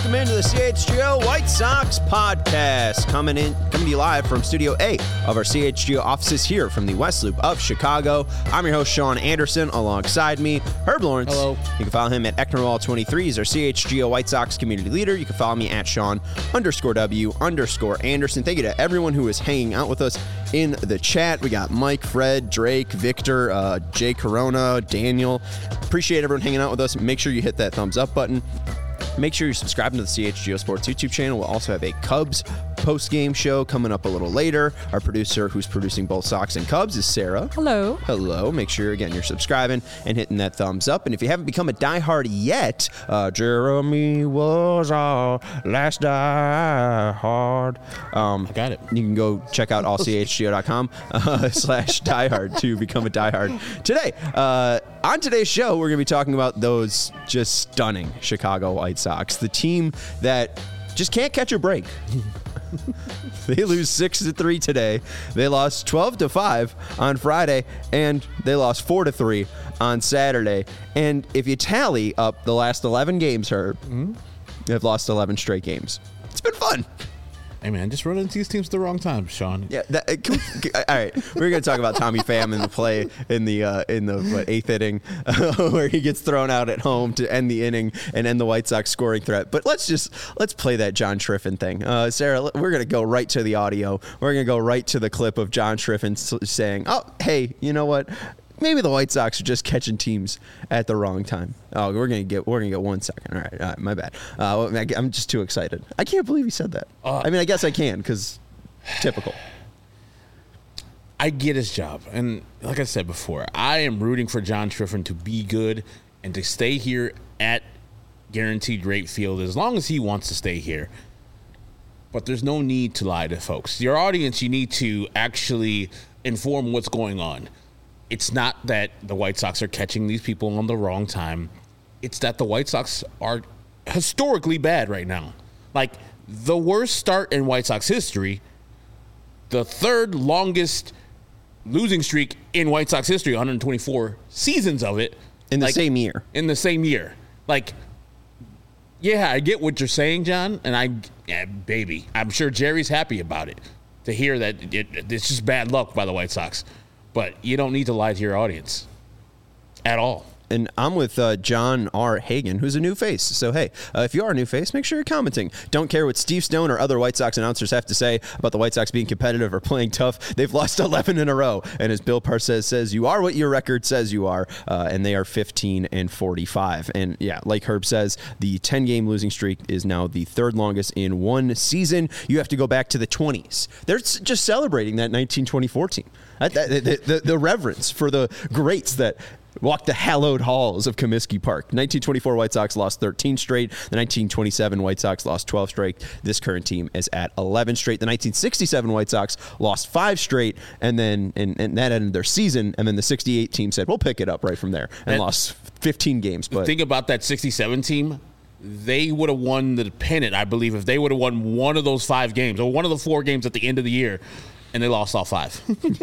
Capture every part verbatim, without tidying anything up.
Welcome into the C H G O White Sox podcast, coming in, coming to you live from Studio A of our C H G O offices here from the West Loop of Chicago. I'm your host, Sean Anderson. Alongside me, Herb Lawrence. Hello. You can follow him at Ecknerwall twenty-three. He's our C H G O White Sox community leader. You can follow me at Sean underscore W underscore Anderson. Thank you to everyone who is hanging out with us in the chat. We got Mike, Fred, Drake, Victor, uh, Jay Corona, Daniel. Appreciate everyone hanging out with us. Make sure you hit that thumbs up button. Make sure you're subscribing to the C H G O Sports YouTube channel. We'll also have a Cubs post-game show coming up a little later. Our producer, who's producing both Sox and Cubs, is Sarah. Hello. Hello. Make sure, again, you're subscribing and hitting that thumbs up. And if you haven't become a diehard yet, uh, Jeremy was our last diehard. Um, I got it. You can go check out all C H G O dot com uh, slash diehard to become a diehard. Today, uh, on today's show, we're going to be talking about those just stunning Chicago White Sox, the team that just can't catch a break. They lose six to three today. They lost twelve to five on Friday, and they lost four to three on Saturday. And if you tally up the last eleven games, Herb, mm-hmm. they've lost eleven straight games. It's been fun. Hey, man, just run into these teams at the wrong time, Sean. Yeah. That, uh, can we, all right, we're going to talk about Tommy Pham in the play in the uh, in the what, eighth inning, uh, where he gets thrown out at home to end the inning and end the White Sox scoring threat. But let's just let's play that John Triffin thing, uh, Sarah. We're going to go right to the audio. We're going to go right to the clip of John Triffin saying, "Oh, hey, you know what? Maybe the White Sox are just catching teams at the wrong time." Oh, we're gonna get we're gonna get one second. All right, all right my bad. Uh, I'm just too excited. I can't believe he said that. Uh, I mean, I guess I can because typical. I get his job, and like I said before, I am rooting for John Triffin to be good and to stay here at Guaranteed Rate Field as long as he wants to stay here. But there's no need to lie to folks. Your audience, you need to actually inform what's going on. It's not that the White Sox are catching these people on the wrong time. It's that the White Sox are historically bad right now. Like, the worst start in White Sox history, the third longest losing streak in White Sox history, one hundred twenty-four seasons of it. In the like, same year. In the same year. Like, yeah, I get what you're saying, John, and I, yeah, baby, I'm sure Jerry's happy about it, to hear that it, it's just bad luck by the White Sox. But you don't need to lie to your audience at all. And I'm with uh, John R. Hagan, who's a new face. So, hey, uh, if you are a new face, make sure you're commenting. Don't care what Steve Stone or other White Sox announcers have to say about the White Sox being competitive or playing tough. They've lost eleven in a row. And as Bill Parcells says, you are what your record says you are. Uh, and they are fifteen and forty-five. And, yeah, like Herb says, the ten-game losing streak is now the third longest in one season. You have to go back to the twenties. They're just celebrating that nineteen twenty-four team. That, that, the, the, the reverence for the greats that walked the hallowed halls of Comiskey Park. nineteen twenty-four White Sox lost thirteen straight. The nineteen twenty-seven White Sox lost twelve straight. This current team is at eleven straight. The nineteen sixty-seven White Sox lost five straight, and then and, and that ended their season. And then the sixty-eight team said, "We'll pick it up right from there," and that, lost fifteen games. But the thing about that sixty-seven team, they would have won the pennant, I believe, if they would have won one of those five games or one of the four games at the end of the year, and they lost all five.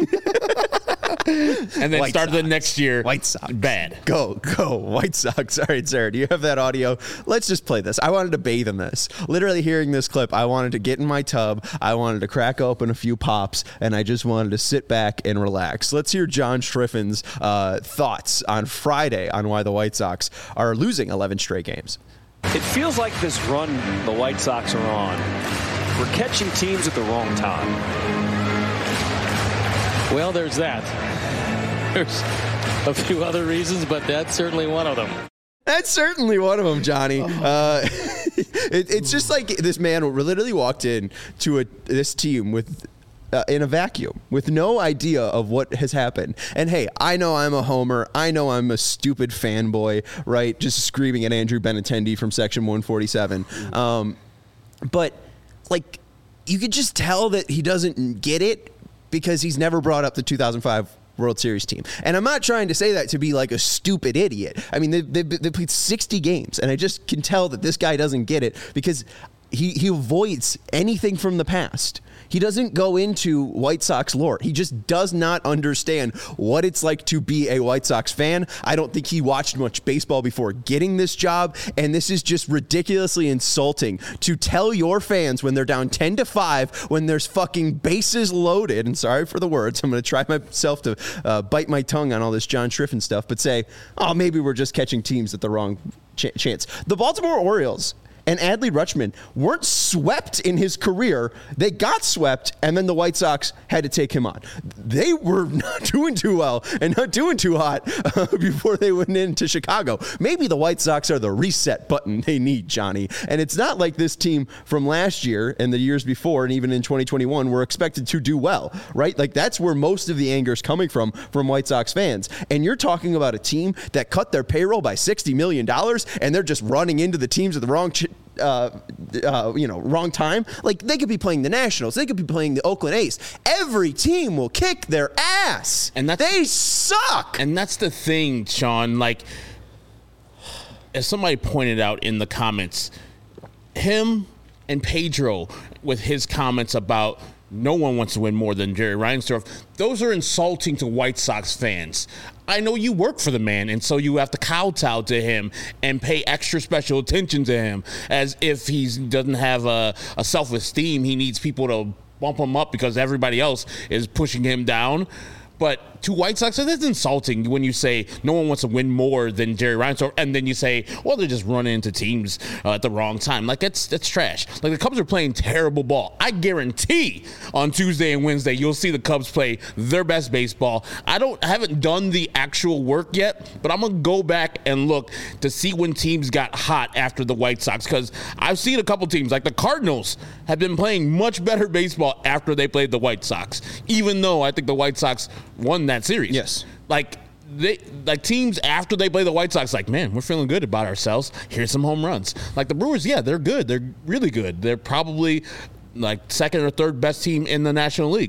And then White started Sox. the next year White Sox. Bad. Go, go, White Sox. All right, Sarah, do you have that audio? Let's just play this. I wanted to bathe in this. Literally hearing this clip, I wanted to get in my tub. I wanted to crack open a few pops, and I just wanted to sit back and relax. Let's hear John Triffin's uh, thoughts on Friday on why the White Sox are losing eleven straight games. It feels like this run the White Sox are on, we're catching teams at the wrong time. Well, there's that. There's a few other reasons, but that's certainly one of them. That's certainly one of them, Johnny. Uh, it, it's just like this man literally walked in to a, this team with uh, in a vacuum with no idea of what has happened. And hey, I know I'm a homer. I know I'm a stupid fanboy, right? Just screaming at Andrew Benintendi from Section one forty-seven. Um, but like, you could just tell that he doesn't get it, because he's never brought up the two thousand five World Series team. And I'm not trying to say that to be like a stupid idiot. I mean, they, they, they played sixty games, and I just can tell that this guy doesn't get it, because he, he avoids anything from the past. He doesn't go into White Sox lore. He just does not understand what it's like to be a White Sox fan. I don't think he watched much baseball before getting this job, and this is just ridiculously insulting to tell your fans when they're down ten to five, when there's fucking bases loaded, and sorry for the words, I'm going to try myself to uh, bite my tongue on all this John Triffin stuff, but say, oh, maybe we're just catching teams at the wrong ch- chance. The Baltimore Orioles and Adley Rutschman weren't swept in his career. They got swept, and then the White Sox had to take him on. They were not doing too well and not doing too hot uh, before they went into Chicago. Maybe the White Sox are the reset button they need, Johnny. And it's not like this team from last year and the years before and even in twenty twenty-one were expected to do well, right? Like, that's where most of the anger is coming from, from White Sox fans. And you're talking about a team that cut their payroll by sixty million dollars, and they're just running into the teams at the wrong ch- Uh, uh, you know, wrong time. Like, they could be playing the Nationals. They could be playing the Oakland A's. Every team will kick their ass. And that's, they suck. And that's the thing, Sean. Like, as somebody pointed out in the comments, him and Pedro with his comments about no one wants to win more than Jerry Reinsdorf, those are insulting to White Sox fans. I know you work for the man, and so you have to kowtow to him and pay extra special attention to him as if he doesn't have a, a self-esteem. He needs people to bump him up because everybody else is pushing him down. But to White Sox, that's insulting when you say no one wants to win more than Jerry Reinsdorf, and then you say, well, they're just running into teams uh, at the wrong time. Like, that's that's trash. Like, the Cubs are playing terrible ball. I guarantee on Tuesday and Wednesday you'll see the Cubs play their best baseball. I don't I haven't done the actual work yet, but I'm gonna go back and look to see when teams got hot after the White Sox, because I've seen a couple teams like the Cardinals have been playing much better baseball after they played the White Sox, even though I think the White Sox won that series. Yes. Like, they like teams after they play the White Sox, like, man, we're feeling good about ourselves. Here's some home runs. Like the Brewers, yeah, they're good. They're really good. They're probably like second or third best team in the National League.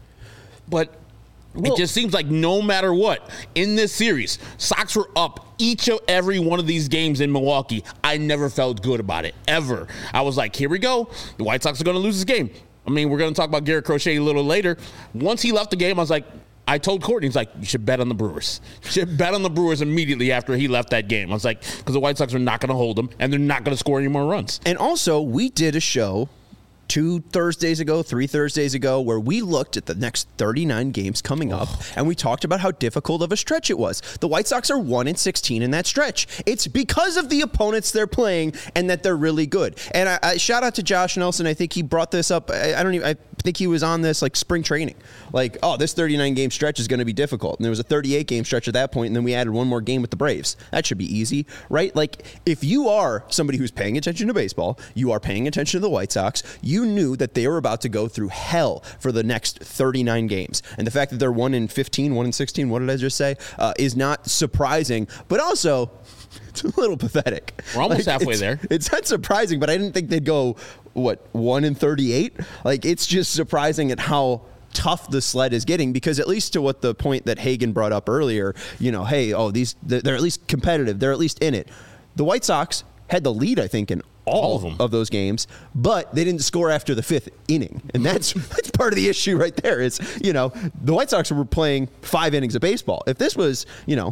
But well, it just seems like no matter what, in this series, Sox were up each of every one of these games in Milwaukee. I never felt good about it, ever. I was like, here we go. The White Sox are going to lose this game. I mean, we're going to talk about Garrett Crochet a little later. Once he left the game, I was like, I told Courtney, he's like, you should bet on the Brewers. You should bet on the Brewers immediately after he left that game. I was like, because the White Sox are not going to hold them, and they're not going to score any more runs. And also, we did a show two Thursdays ago, three Thursdays ago, where we looked at the next thirty-nine games coming up, oh. and we talked about how difficult of a stretch it was. The White Sox are one and sixteen in that stretch. It's because of the opponents they're playing and that they're really good. And I, I shout out to Josh Nelson. I think he brought this up. I, I don't even. I think he was on this like spring training. Like, oh, this thirty-nine game stretch is going to be difficult. And there was a thirty-eight game stretch at that point, and then we added one more game with the Braves. That should be easy, right? Like, if you are somebody who's paying attention to baseball, you are paying attention to the White Sox, you knew that they were about to go through hell for the next thirty-nine games. And the fact that they're one in fifteen, one in sixteen, what did I just say, uh, is not surprising, but also it's a little pathetic. We're almost like, halfway it's, there. It's not surprising, but I didn't think they'd go, what, one in thirty-eight? Like, it's just surprising at how tough the sled is getting, because at least to what the point that Hagen brought up earlier, you know, hey, oh, these they're at least competitive. They're at least in it. The White Sox had the lead, I think, in all, all of, them. of those games, but they didn't score after the fifth inning. And that's that's part of the issue right there is, you know, the White Sox were playing five innings of baseball. If this was, you know,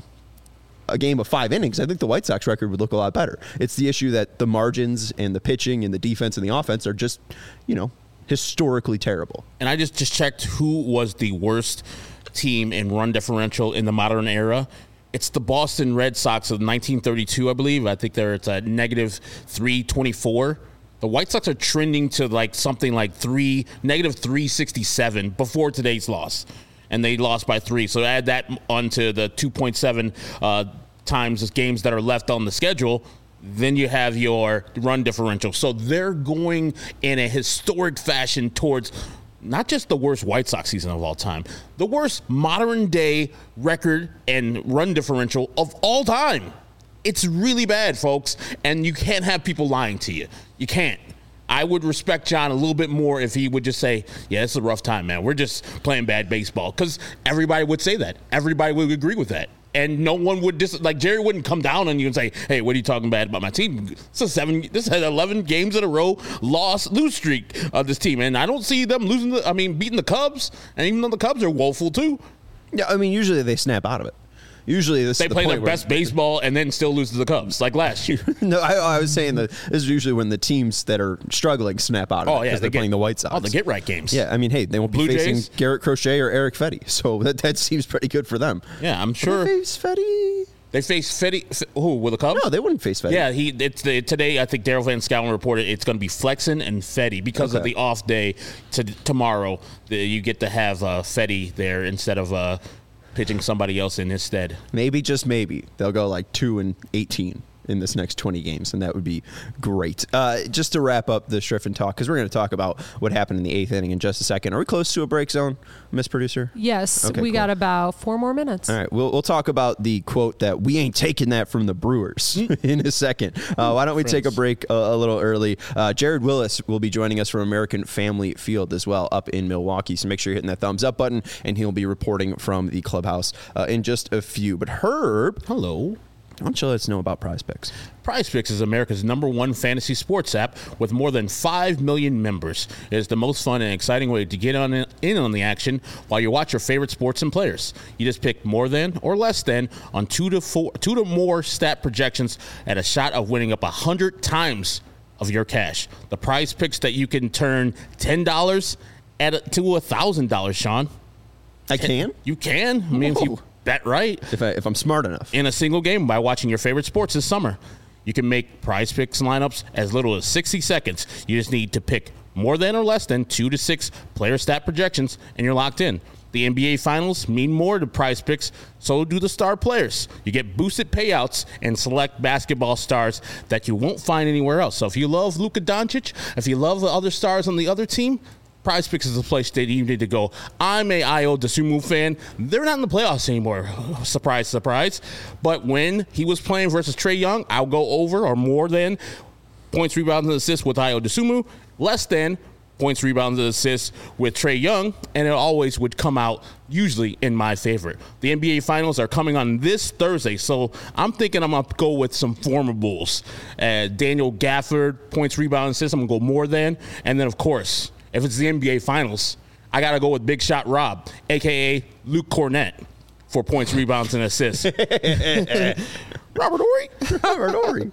a game of five innings, I think the White Sox record would look a lot better. It's the issue that the margins and the pitching and the defense and the offense are just, you know, historically terrible. And I just, just checked who was the worst team in run differential in the modern era. It's the Boston Red Sox of nineteen thirty-two, I believe. I think they're it's a negative three twenty-four. The White Sox are trending to like something like three negative three sixty-seven before today's loss, and they lost by three. So add that onto the two point seven uh, times the games that are left on the schedule. Then you have your run differential. So they're going in a historic fashion towards not just the worst White Sox season of all time, the worst modern day record and run differential of all time. It's really bad, folks, and you can't have people lying to you. You can't. I would respect John a little bit more if he would just say, yeah, it's a rough time, man. We're just playing bad baseball, because everybody would say that. Everybody would agree with that. and no one would dis- like Jerry wouldn't come down on you and say, "Hey, what are you talking bad about my team?" This is seven. This had eleven games in a row loss lose streak of this team, and I don't see them losing. The, I mean, beating the Cubs, and even though the Cubs are woeful too. Yeah, I mean, usually they snap out of it. Usually this they is the play point their where, best baseball and then still lose to the Cubs, like last year. No, I, I was saying that this is usually when the teams that are struggling snap out of Oh, it yeah, because they they're get- playing the White Sox. Oh, the get right games. Yeah, I mean, hey, they won't be Blue facing Jays? Garrett Crochet or Eric Fetty, so that, that seems pretty good for them. Yeah, I'm Will sure they face Fetty? they face Fetty. F- Who with the Cubs? No, they wouldn't face Fetty. Yeah, he it's the, today. I think Daryl Van Schouwen reported it's going to be Flexen and Fetty because of Okay. the off day to tomorrow. The, you get to have uh, Fetty there instead of uh, pitching somebody else in his stead. Maybe, just maybe, they'll go like two and eighteen in this next twenty games, and that would be great. Uh, just to wrap up the Striffen talk, because we're going to talk about what happened in the eighth inning in just a second. Are we close to a break zone, Miss Producer? Yes, Okay, we cool. got about four more minutes. All right, we'll, we'll talk about the quote that we ain't taking that from the Brewers in a second. Uh, why don't we take a break a, a little early? Uh, Jared Willis will be joining us from American Family Field as well up in Milwaukee, so make sure you're hitting that thumbs up button, and he'll be reporting from the clubhouse uh, in just a few. But Herb, Hello. why don't you let us know about Prize Picks? Prize Picks is America's number one fantasy sports app with more than five million members. It is the most fun and exciting way to get on in on the action while you watch your favorite sports and players. You just pick more than or less than on two to four, two to more stat projections at a shot of winning up a hundred times of your cash. The Prize Picks that you can turn ten dollars at a, to a thousand dollars. Sean, I can? you can. I mean, if you Whoa. bet right If, I, if I'm smart enough. in a single game by watching your favorite sports this summer. You can make Prize Picks lineups as little as sixty seconds. You just need to pick more than or less than two to six player stat projections, and you're locked in. The N B A Finals mean more to Prize Picks, so do the star players. You get boosted payouts and select basketball stars that you won't find anywhere else. So if you love Luka Doncic, if you love the other stars on the other team, Prize Picks is the place that you need to go. I'm a Ayo Dosunmu fan. They're not in the playoffs anymore. Surprise, surprise. But when he was playing versus Trae Young, I'll go over or more than points, rebounds, and assists with Ayo Dosunmu, less than points, rebounds, and assists with Trae Young, and it always would come out usually in my favor. The N B A Finals are coming on this Thursday, so I'm thinking I'm going to go with some formables. Uh, Daniel Gafford, points, rebounds, assists, I'm going to go more than. And then, of course, if it's the N B A Finals, I got to go with Big Shot Rob, a k a. Luke Cornett, for points, rebounds, and assists. Robert Horry. Robert Horry.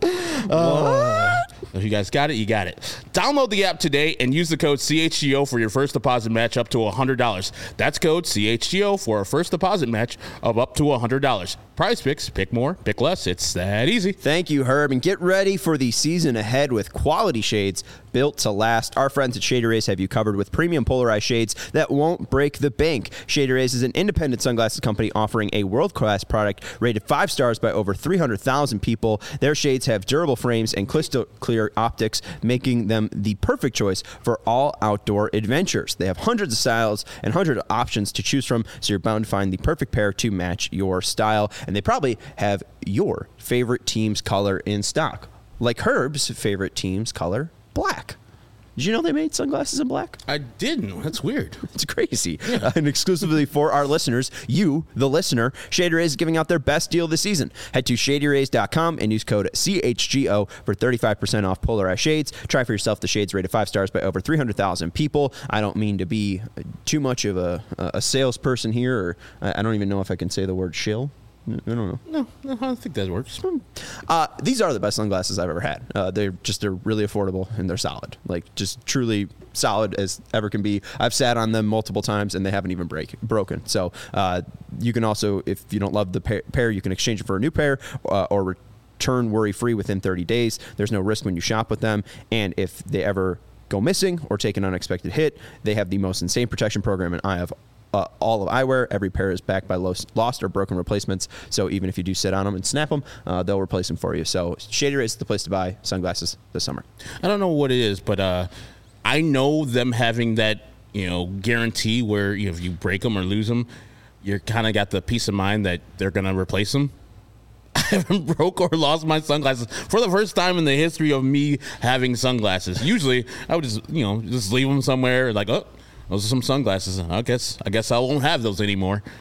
If you guys got it, you got it. Download the app today and use the code C H G O for your first deposit match up to one hundred dollars. That's code C H G O for a first deposit match of up to one hundred dollars. Prize Picks, pick more, pick less. It's that easy. Thank you, Herb. And get ready for the season ahead with quality shades built to last. Our friends at Shady Rays have you covered with premium polarized shades that won't break the bank. Shady Rays is an independent sunglasses company offering a world-class product rated five stars by over three hundred thousand people. Their shades have durable frames and crystal clear optics, making them the perfect choice for all outdoor adventures. They have hundreds of styles and hundreds of options to choose from, so you're bound to find the perfect pair to match your style. And they probably have your favorite team's color in stock, like Herb's favorite team's color, black. Did you know they made sunglasses in black? I didn't. That's weird. It's crazy. Uh, and exclusively for our listeners, you, the listener, Shady Rays is giving out their best deal this season. Head to shady rays dot com and use code C H G O for thirty-five percent off polarized shades. Try for yourself the shades rated five stars by over three hundred thousand people. I don't mean to be too much of a, a salesperson here, or I don't even know if I can say the word shill. I don't know. No, no, I don't think that works. Uh, these are the best sunglasses I've ever had. Uh, they're just they're really affordable and they're solid, like just truly solid as ever can be. I've sat on them multiple times and they haven't even break broken. So uh, you can also, if you don't love the pair, pair you can exchange it for a new pair uh, or return worry free within thirty days. There's no risk when you shop with them, and if they ever go missing or take an unexpected hit, they have the most insane protection program, and I have. Uh, all of eyewear. Every pair is backed by lost, lost or broken replacements. So even if you do sit on them and snap them, uh, they'll replace them for you. So Shady Rays is the place to buy sunglasses this summer. I don't know what it is, but uh, I know them having that, you know, guarantee where, you know, if you break them or lose them, you're kind of got the peace of mind that they're going to replace them. I haven't broke or lost my sunglasses for the first time in the history of me having sunglasses. Usually I would just, you know, just leave them somewhere like, oh, those are some sunglasses. I guess I guess I won't have those anymore.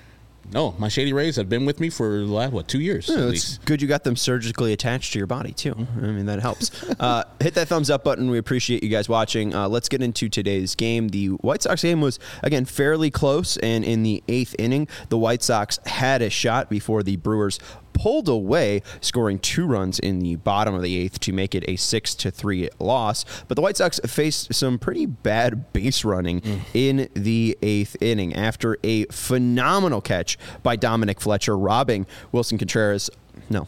No, my Shady Rays have been with me for the last, what, two years Yeah, at it's least. good you got them surgically attached to your body, too. I mean, that helps. uh, hit that thumbs up button. We appreciate you guys watching. Uh, let's get into today's game. The White Sox game was, again, fairly close, and in the eighth inning, the White Sox had a shot before the Brewers pulled away, scoring two runs in the bottom of the eighth to make it a six to three loss. But the White Sox faced some pretty bad base running mm. in the eighth inning after a phenomenal catch by Dominic Fletcher, robbing Wilson Contreras. No.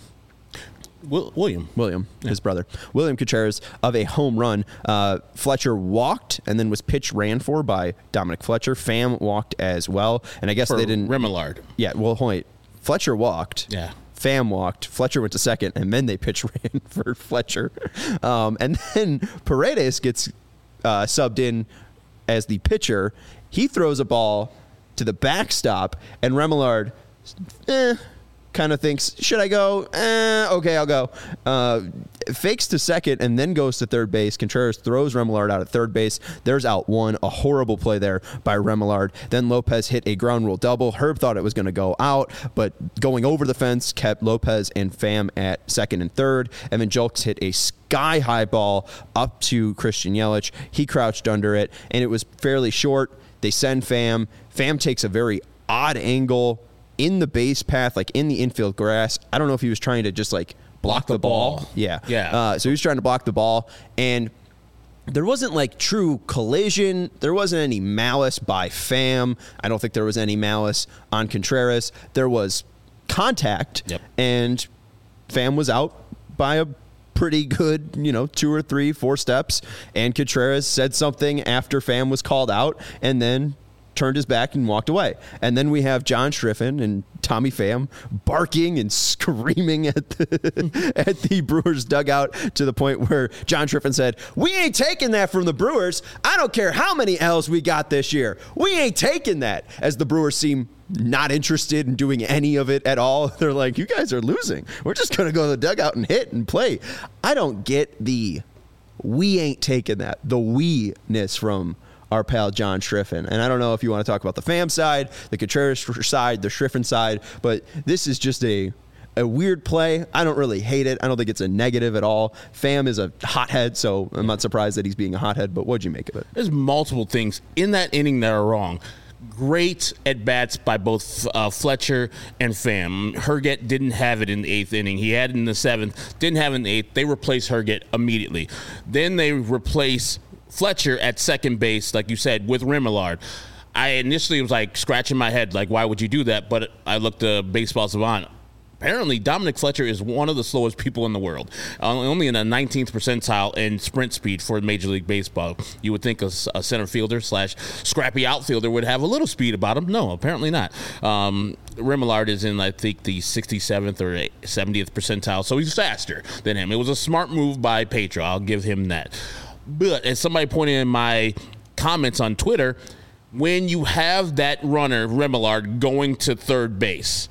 Will, William. William, yeah. his brother. William Contreras of a home run. Uh, Fletcher walked and then was pitch ran for by Dominic Fletcher. Pham walked as well. And I guess for they didn't. Remillard. Yeah, well, wait. Fletcher walked. Yeah. Pham walked. Fletcher went to second, and then they pitch ran for Fletcher. Um, and then Paredes gets uh, subbed in as the pitcher. He throws a ball to the backstop, and Remillard, eh, kind of thinks, should I go? Eh, okay, I'll go. Uh, fakes to second and then goes to third base. Contreras throws Remillard out at third base. There's out one. A horrible play there by Remillard. Then Lopez hit a ground rule double. Herb thought it was going to go out, but going over the fence kept Lopez and Pham at second and third. Evan Julks hit a sky-high ball up to Christian Yelich. He crouched under it, and it was fairly short. They send Pham. Pham takes a very odd angle in the base path, like in the infield grass. I don't know if he was trying to just like block, block the, the ball. ball. Yeah. Yeah. Uh, so he was trying to block the ball, and there wasn't like true collision. There wasn't any malice by Pham. I don't think there was any malice on Contreras. There was contact, yep. and Pham was out by a pretty good, you know, two or three, four steps, and Contreras said something after Pham was called out, and then turned his back and walked away. And then we have John Striffen and Tommy Pham barking and screaming at the, at the Brewers dugout to the point where John Striffen said, "We ain't taking that from the Brewers. I don't care how many L's we got this year. We ain't taking that." As the Brewers seem not interested in doing any of it at all. They're like, "You guys are losing. We're just going to go to the dugout and hit and play." I don't get the "we ain't taking that," the we-ness from our pal John Striffen. And I don't know if you want to talk about the Pham side, the Contreras side, the Striffen side, but this is just a a weird play. I don't really hate it. I don't think it's a negative at all. Pham is a hothead, so I'm not surprised that he's being a hothead, but what'd you make of it? There's multiple things in that inning that are wrong. Great at-bats by both uh, Fletcher and Pham. Herget didn't have it in the eighth inning. He had it in the seventh, didn't have it in the eighth. They replaced Herget immediately. Then they replace Fletcher at second base, like you said, with Remillard. I initially was like scratching my head, like, why would you do that? But I looked at Baseball Savant. Apparently, Dominic Fletcher is one of the slowest people in the world, uh, only in the nineteenth percentile in sprint speed for Major League Baseball. You would think a, a center fielder slash scrappy outfielder would have a little speed about him. No, apparently not. Um, Remillard is in, I think, the sixty-seventh or seventieth percentile, so he's faster than him. It was a smart move by Pedro. I'll give him that. But as somebody pointed in my comments on Twitter, when you have that runner, Remillard, going to third base,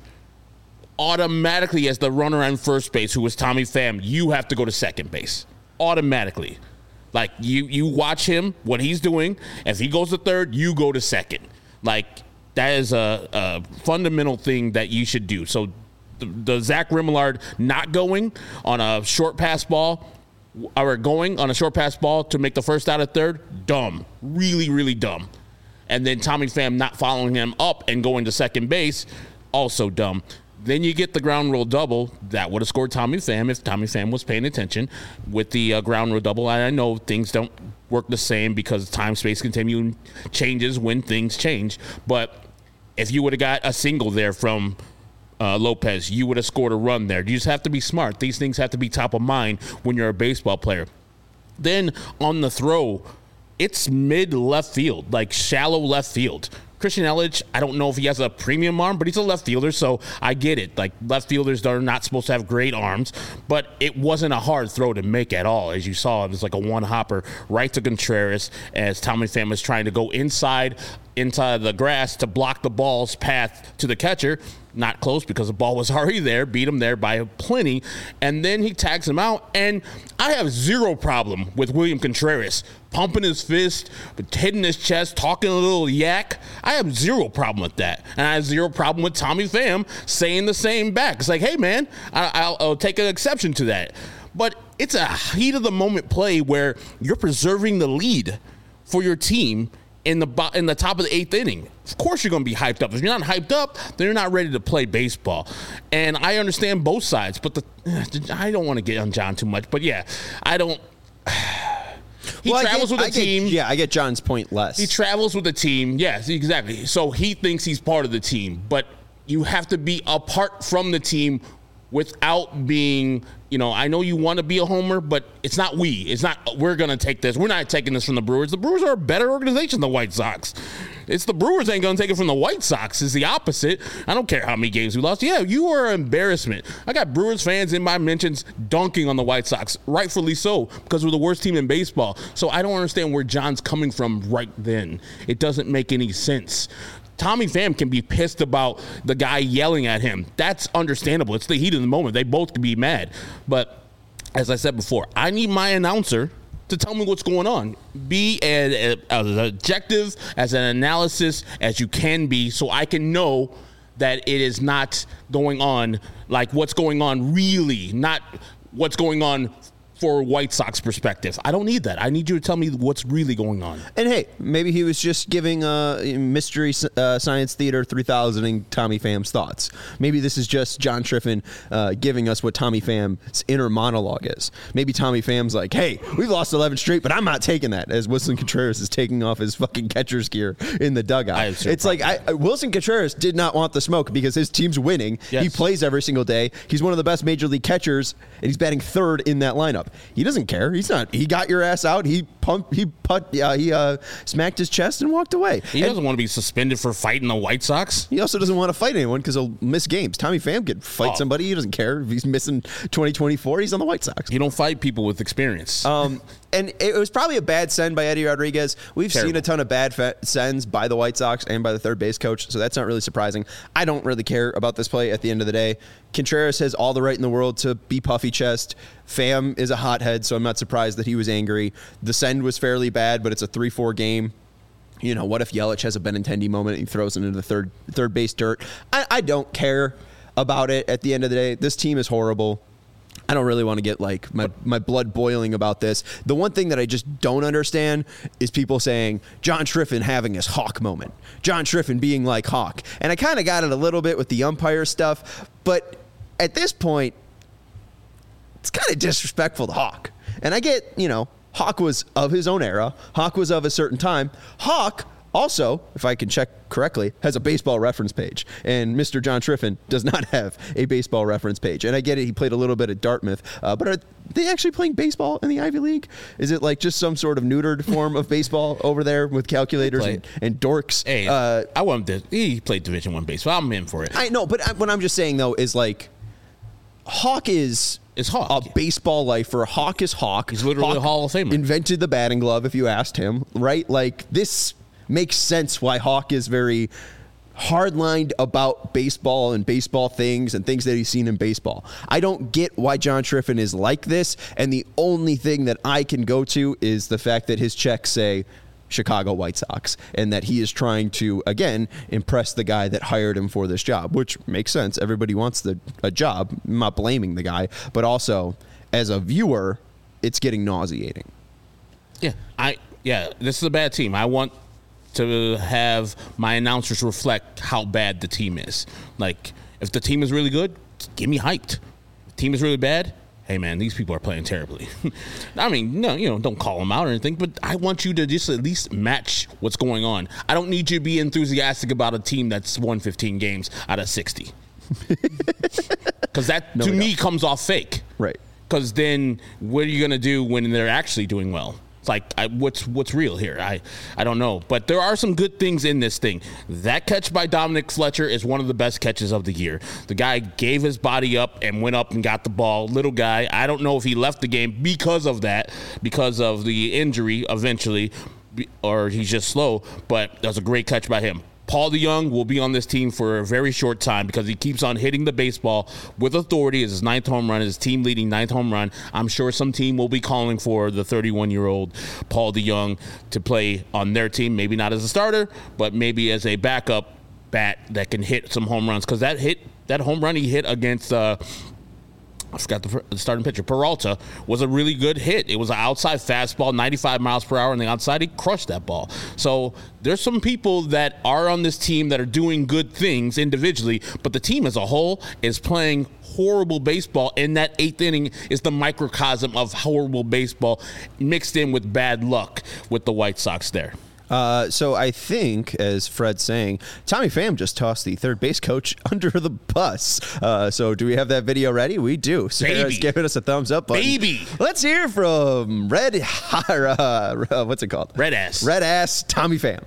automatically as the runner on first base, who was Tommy Pham, you have to go to second base. Automatically. Like, you, you watch him, what he's doing. If he goes to third, you go to second. Like, that is a, a fundamental thing that you should do. So the, the Zach Remillard not going on a short pass ball, or going on a short pass ball to make the first out at third, dumb. Really, really dumb. And then Tommy Pham not following him up and going to second base, also dumb. Then you get the ground rule double. That would have scored Tommy Pham if Tommy Pham was paying attention with the uh, ground rule double. And I know things don't work the same because time, space, continuum changes when things change. But if you would have got a single there from Uh, Lopez, you would have scored a run there. You just have to be smart. These things have to be top of mind when you're a baseball player. Then on the throw, it's mid left field, like shallow left field. Christian Yelich, I don't know if he has a premium arm, but he's a left fielder, so I get it. Like, left fielders are not supposed to have great arms, but it wasn't a hard throw to make at all. As you saw, it was like a one-hopper right to Contreras as Tommy Pham was trying to go inside into the grass to block the ball's path to the catcher. Not close because the ball was already there, beat him there by plenty. And then he tags him out. And I have zero problem with William Contreras pumping his fist, hitting his chest, talking a little yak. I have zero problem with that. And I have zero problem with Tommy Pham saying the same back. It's like, hey, man, I, I'll, I'll take an exception to that. But it's a heat of the moment play where you're preserving the lead for your team in the bo- in the top of the eighth inning. Of course you're going to be hyped up. If you're not hyped up, then you're not ready to play baseball. And I understand both sides, but the I don't want to get on John too much. But yeah, I don't. He well, travels get, with the I team. Get, yeah, I get John's point less. He travels with the team. Yes, exactly. So he thinks he's part of the team, but you have to be apart from the team without being, you know, I know you want to be a homer, but it's not we. It's not, we're going to take this. We're not taking this from the Brewers. The Brewers are a better organization than the White Sox. It's the Brewers ain't going to take it from the White Sox. It's the opposite. I don't care how many games we lost. Yeah, you are an embarrassment. I got Brewers fans in my mentions dunking on the White Sox, rightfully so, because we're the worst team in baseball. So I don't understand where John's coming from right then. It doesn't make any sense. Tommy Pham can be pissed about the guy yelling at him. That's understandable. It's the heat of the moment. They both can be mad. But as I said before, I need my announcer to tell me what's going on. Be as, as objective as an analysis as you can be so I can know that it is not going on like what's going on really, not what's going on for White Sox perspective. I don't need that. I need you to tell me what's really going on. And hey, maybe he was just giving uh, Mystery uh, Science Theater three thousand and Tommy Pham's thoughts. Maybe this is just John Triffin uh, giving us what Tommy Pham's inner monologue is. Maybe Tommy Pham's like, hey, we've lost eleven straight, but I'm not taking that, as Wilson Contreras is taking off his fucking catcher's gear in the dugout. It's like, I, Wilson Contreras did not want the smoke because his team's winning. Yes. He plays every single day. He's one of the best major league catchers, and he's batting third in that lineup. He doesn't care. He's not. He got your ass out. He pumped. He put. Uh, he uh, smacked his chest and walked away. He and doesn't want to be suspended for fighting the White Sox. He also doesn't want to fight anyone because he'll miss games. Tommy Pham could fight oh. somebody. He doesn't care if he's missing twenty twenty-four. He's on the White Sox. You don't fight people with experience. Um, and it was probably a bad send by Eddie Rodriguez. We've Terrible. seen a ton of bad fa- sends by the White Sox and by the third base coach, so that's not really surprising. I don't really care about this play at the end of the day. Contreras has all the right in the world to be puffy chest. Pham is a hothead, so I'm not surprised that he was angry. The send was fairly bad, but it's a three four game. You know, what if Yelich has a Benintendi moment and he throws it into the third third base dirt? I, I don't care about it at the end of the day. This team is horrible. I don't really want to get like my, my blood boiling about this. The one thing that I just don't understand is people saying John Triffin having his Hawk moment. John Triffin being like Hawk. And I kind of got it a little bit with the umpire stuff, but at this point, it's kind of disrespectful to Hawk. And I get, you know, Hawk was of his own era. Hawk was of a certain time. Hawk also, if I can check correctly, has a baseball reference page. And Mister John Triffin does not have a baseball reference page. And I get it, he played a little bit at Dartmouth. Uh, but are they actually playing baseball in the Ivy League? Is it like just some sort of neutered form of baseball over there with calculators and, and dorks? Hey, uh, I want him to, he played Division One baseball. I'm in for it. I know, but I, what I'm just saying, though, is like, Hawk is... Is Hawk. A baseball lifer. Hawk is Hawk. He's literally Hawk a Hall of Famer. Invented the batting glove, if you asked him, right? Like, this makes sense why Hawk is very hardlined about baseball and baseball things and things that he's seen in baseball. I don't get why John Triffin is like this, and the only thing that I can go to is the fact that his checks say Chicago White Sox, and that he is trying to, again, impress the guy that hired him for this job, which makes sense. Everybody wants the a job. I'm not blaming the guy, but also as a viewer, it's getting nauseating. Yeah, I yeah, this is a bad team. I want to have my announcers reflect how bad the team is. Like, if the team is really good, get me hyped. If the team is really bad, hey, man, these people are playing terribly. I mean, no, you know, don't call them out or anything, but I want you to just at least match what's going on. I don't need you to be enthusiastic about a team that's won fifteen games out of sixty. Because that, no, to me, don't. comes off fake. Right. Because then what are you going to do when they're actually doing well? It's like, I, what's what's real here? I, I don't know. But there are some good things in this thing. That catch by Dominic Fletcher is one of the best catches of the year. The guy gave his body up and went up and got the ball. Little guy. I don't know if he left the game because of that, because of the injury eventually. or he's just slow, but that was a great catch by him. Paul DeJong will be on this team for a very short time because he keeps on hitting the baseball with authority. It's his ninth home run, his team-leading ninth home run. I'm sure some team will be calling for the thirty-one-year-old Paul DeJong to play on their team, maybe not as a starter, but maybe as a backup bat that can hit some home runs. Because that hit, that home run he hit against uh, I forgot the, the starting pitcher, Peralta, was a really good hit. It was an outside fastball, ninety-five miles per hour on the outside. He crushed that ball. So there's some people that are on this team that are doing good things individually, but the team as a whole is playing horrible baseball, and that eighth inning is the microcosm of horrible baseball mixed in with bad luck with the White Sox there. Uh, so I think, as Fred's saying, Tommy Pham just tossed the third base coach under the bus. Uh, so do we have that video ready? We do. Sarah's Baby. giving us a thumbs up button. Baby. Let's hear from Red, uh, what's it called? Red ass. Red ass Tommy Pham.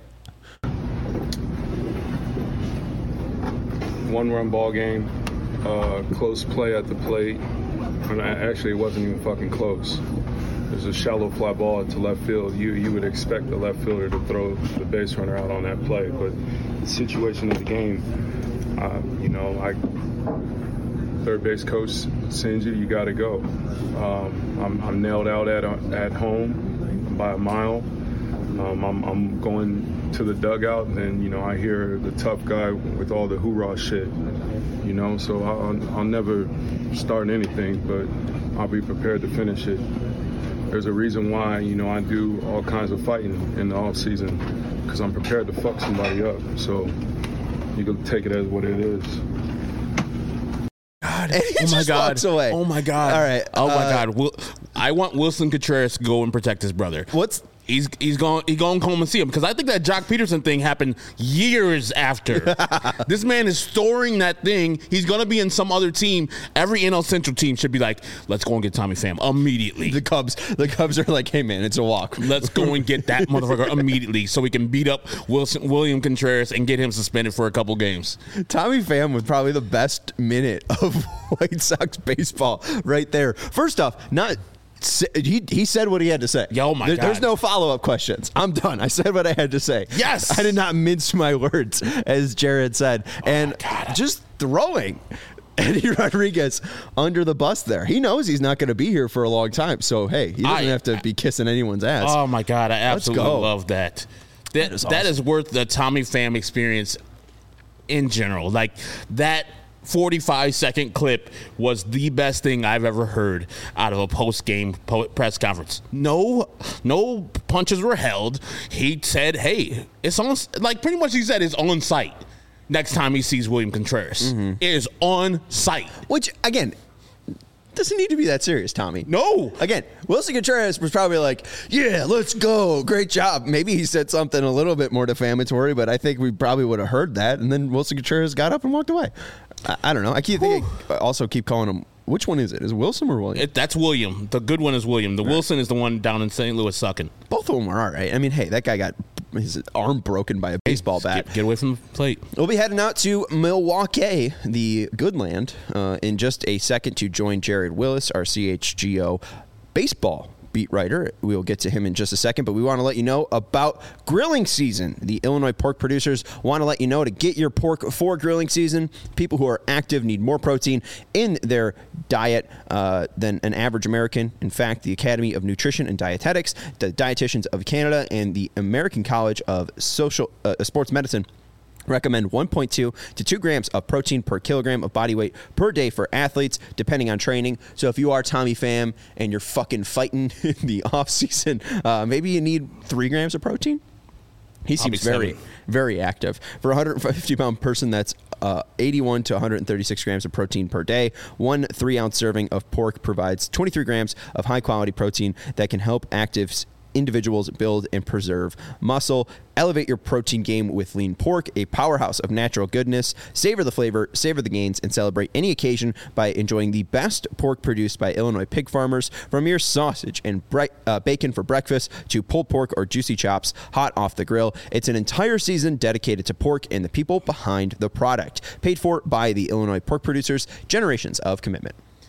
One-run ball game, uh, close play at the plate. And actually, it wasn't even fucking close. There's a shallow fly ball to left field. You you would expect the left fielder to throw the base runner out on that play, but the situation of the game, uh, you know, I third base coach sends you, you got to go. Um, I'm, I'm nailed out at at home by a mile. Um, I'm, I'm going to the dugout, and you know I hear the tough guy with all the hoorah shit. You know, so I'll, I'll never start anything, but I'll be prepared to finish it. There's a reason why, you know, I do all kinds of fighting in the off season, because I'm prepared to fuck somebody up. So you can take it as what it is. God, and he oh my just God. walks away. Oh my God. All right. Oh my uh, God. Will, I want Wilson Contreras to go and protect his brother. What's He's he's going he going home and see him, because I think that Jock Peterson thing happened years after. This man is storing that thing. He's going to be in some other team. Every N L Central team should be like, let's go and get Tommy Pham immediately. the Cubs? The Cubs are like, hey man, it's a walk. Let's go and get that motherfucker immediately so we can beat up Wilson William Contreras and get him suspended for a couple games. Tommy Pham with probably the best minute of White Sox baseball right there. First off, not. He he said what he had to say. Yeah, oh my there, God. There's no follow-up questions. I'm done. I said what I had to say. Yes. I did not mince my words, as Jared said. Oh and just throwing Eddie Rodriguez under the bus there. He knows he's not going to be here for a long time. So, hey, he doesn't I, have to be kissing anyone's ass. Oh, my God. I absolutely go. love that. That, That is that awesome. is worth the Tommy Pham experience in general. Like, that forty-five second clip was the best thing I've ever heard out of a post-game po- press conference. No, no punches were held. He said, hey, it's on, like pretty much he said it's on site next time he sees William Contreras. Mm-hmm. It is on site. Which, again, doesn't need to be that serious, Tommy. No. Again, Wilson Contreras was probably like, yeah, let's go. Great job. Maybe he said something a little bit more defamatory, but I think we probably would have heard that. And then Wilson Contreras got up and walked away. I, I don't know. I keep thinking, I also keep calling him. Which one is it? Is it Wilson or William? It, that's William. The good one is William. The right. Wilson is the one down in Saint Louis sucking. Both of them are all right. I mean, hey, that guy got his arm broken by a baseball bat. Get, get away from the plate. We'll be heading out to Milwaukee, the good land, uh, in just a second to join Jared Willis, our C H G O baseball beat writer. We'll get to him in just a second, but we want to let you know about grilling season. The Illinois pork producers want to let you know to get your pork for grilling season. People who are active need more protein in their diet uh, than an average American. In fact, the Academy of Nutrition and Dietetics, the Dietitians of Canada, and the American College of Social uh, Sports Medicine recommend one point two to two grams of protein per kilogram of body weight per day for athletes, depending on training. So if you are Tommy Pham and you're fucking fighting in the off season, uh, maybe you need three grams of protein. He seems very, seven. very active. For a one hundred fifty pound person, that's uh, eighty-one to one hundred thirty-six grams of protein per day. One three ounce serving of pork provides twenty-three grams of high quality protein that can help actives individuals build and preserve muscle. Elevate your protein game with lean pork, a powerhouse of natural goodness. Savor the flavor, savor the gains, and celebrate any occasion by enjoying the best pork produced by Illinois pig farmers. From your sausage and bre- uh, bacon for breakfast to pulled pork or juicy chops hot off the grill, it's an entire season dedicated to pork and the people behind the product. Paid for by the Illinois pork producers, generations of commitment.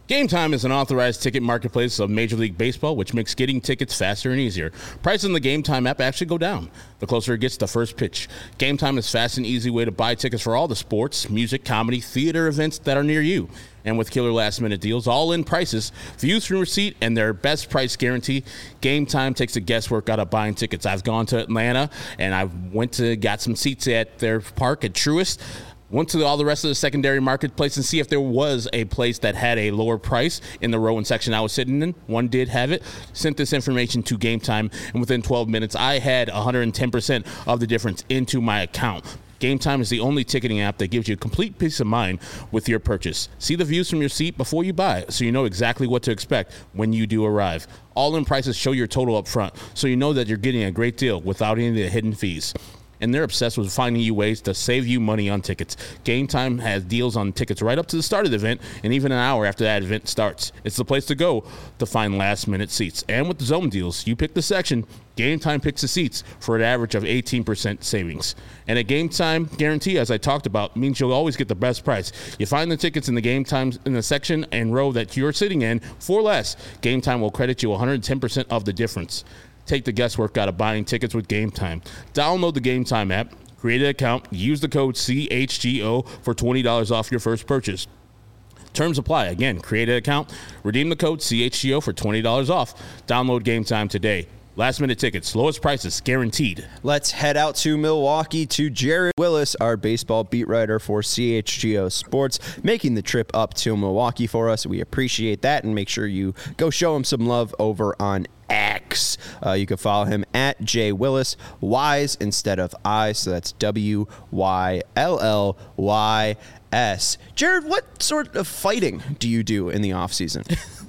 Game Time is an authorized ticket marketplace of Major League Baseball, which makes getting tickets faster and easier. Prices in the Game Time app actually go down the closer it gets to the first pitch. Game Time is fast and easy way to buy tickets for all the sports, music, comedy, theater events that are near you. And with killer last-minute deals, all-in prices, views from receipt, and their best price guarantee, Game Time takes the guesswork out of buying tickets. I've gone to Atlanta, and I went to got some seats at their park at Truist. Went to all the rest of the secondary marketplace and see if there was a place that had a lower price in the row and section I was sitting in. One did have it. Sent this information to Game Time, and within twelve minutes, I had one hundred ten percent of the difference into my account. Game Time is the only ticketing app that gives you complete peace of mind with your purchase. See the views from your seat before you buy, so you know exactly what to expect when you do arrive. All-in prices show your total up front, so you know that you're getting a great deal without any of the hidden fees. And they're obsessed with finding you ways to save you money on tickets. Game Time has deals on tickets right up to the start of the event and even an hour after that event starts. It's the place to go to find last-minute seats. And with the zone deals, you pick the section, Game Time picks the seats for an average of eighteen percent savings. And a Game Time guarantee, as I talked about, means you'll always get the best price. You find the tickets in the Game Time in the section and row that you're sitting in for less. Game Time will credit you one hundred ten percent of the difference. Take the guesswork out of buying tickets with Game Time. Download the Game Time app, create an account, use the code C H G O for twenty dollars off your first purchase. Terms apply. Again, create an account, redeem the code C H G O for twenty dollars off. Download Game Time today. Last minute tickets, lowest prices, guaranteed. Let's head out to Milwaukee to Jared Willis, our baseball beat writer for C H G O Sports, making the trip up to Milwaukee for us. We appreciate that, and make sure you go show him some love over on X. Uh, you can follow him at J Willis, Y's instead of I, so that's W Y L L Y S. Jared, what sort of fighting do you do in the offseason?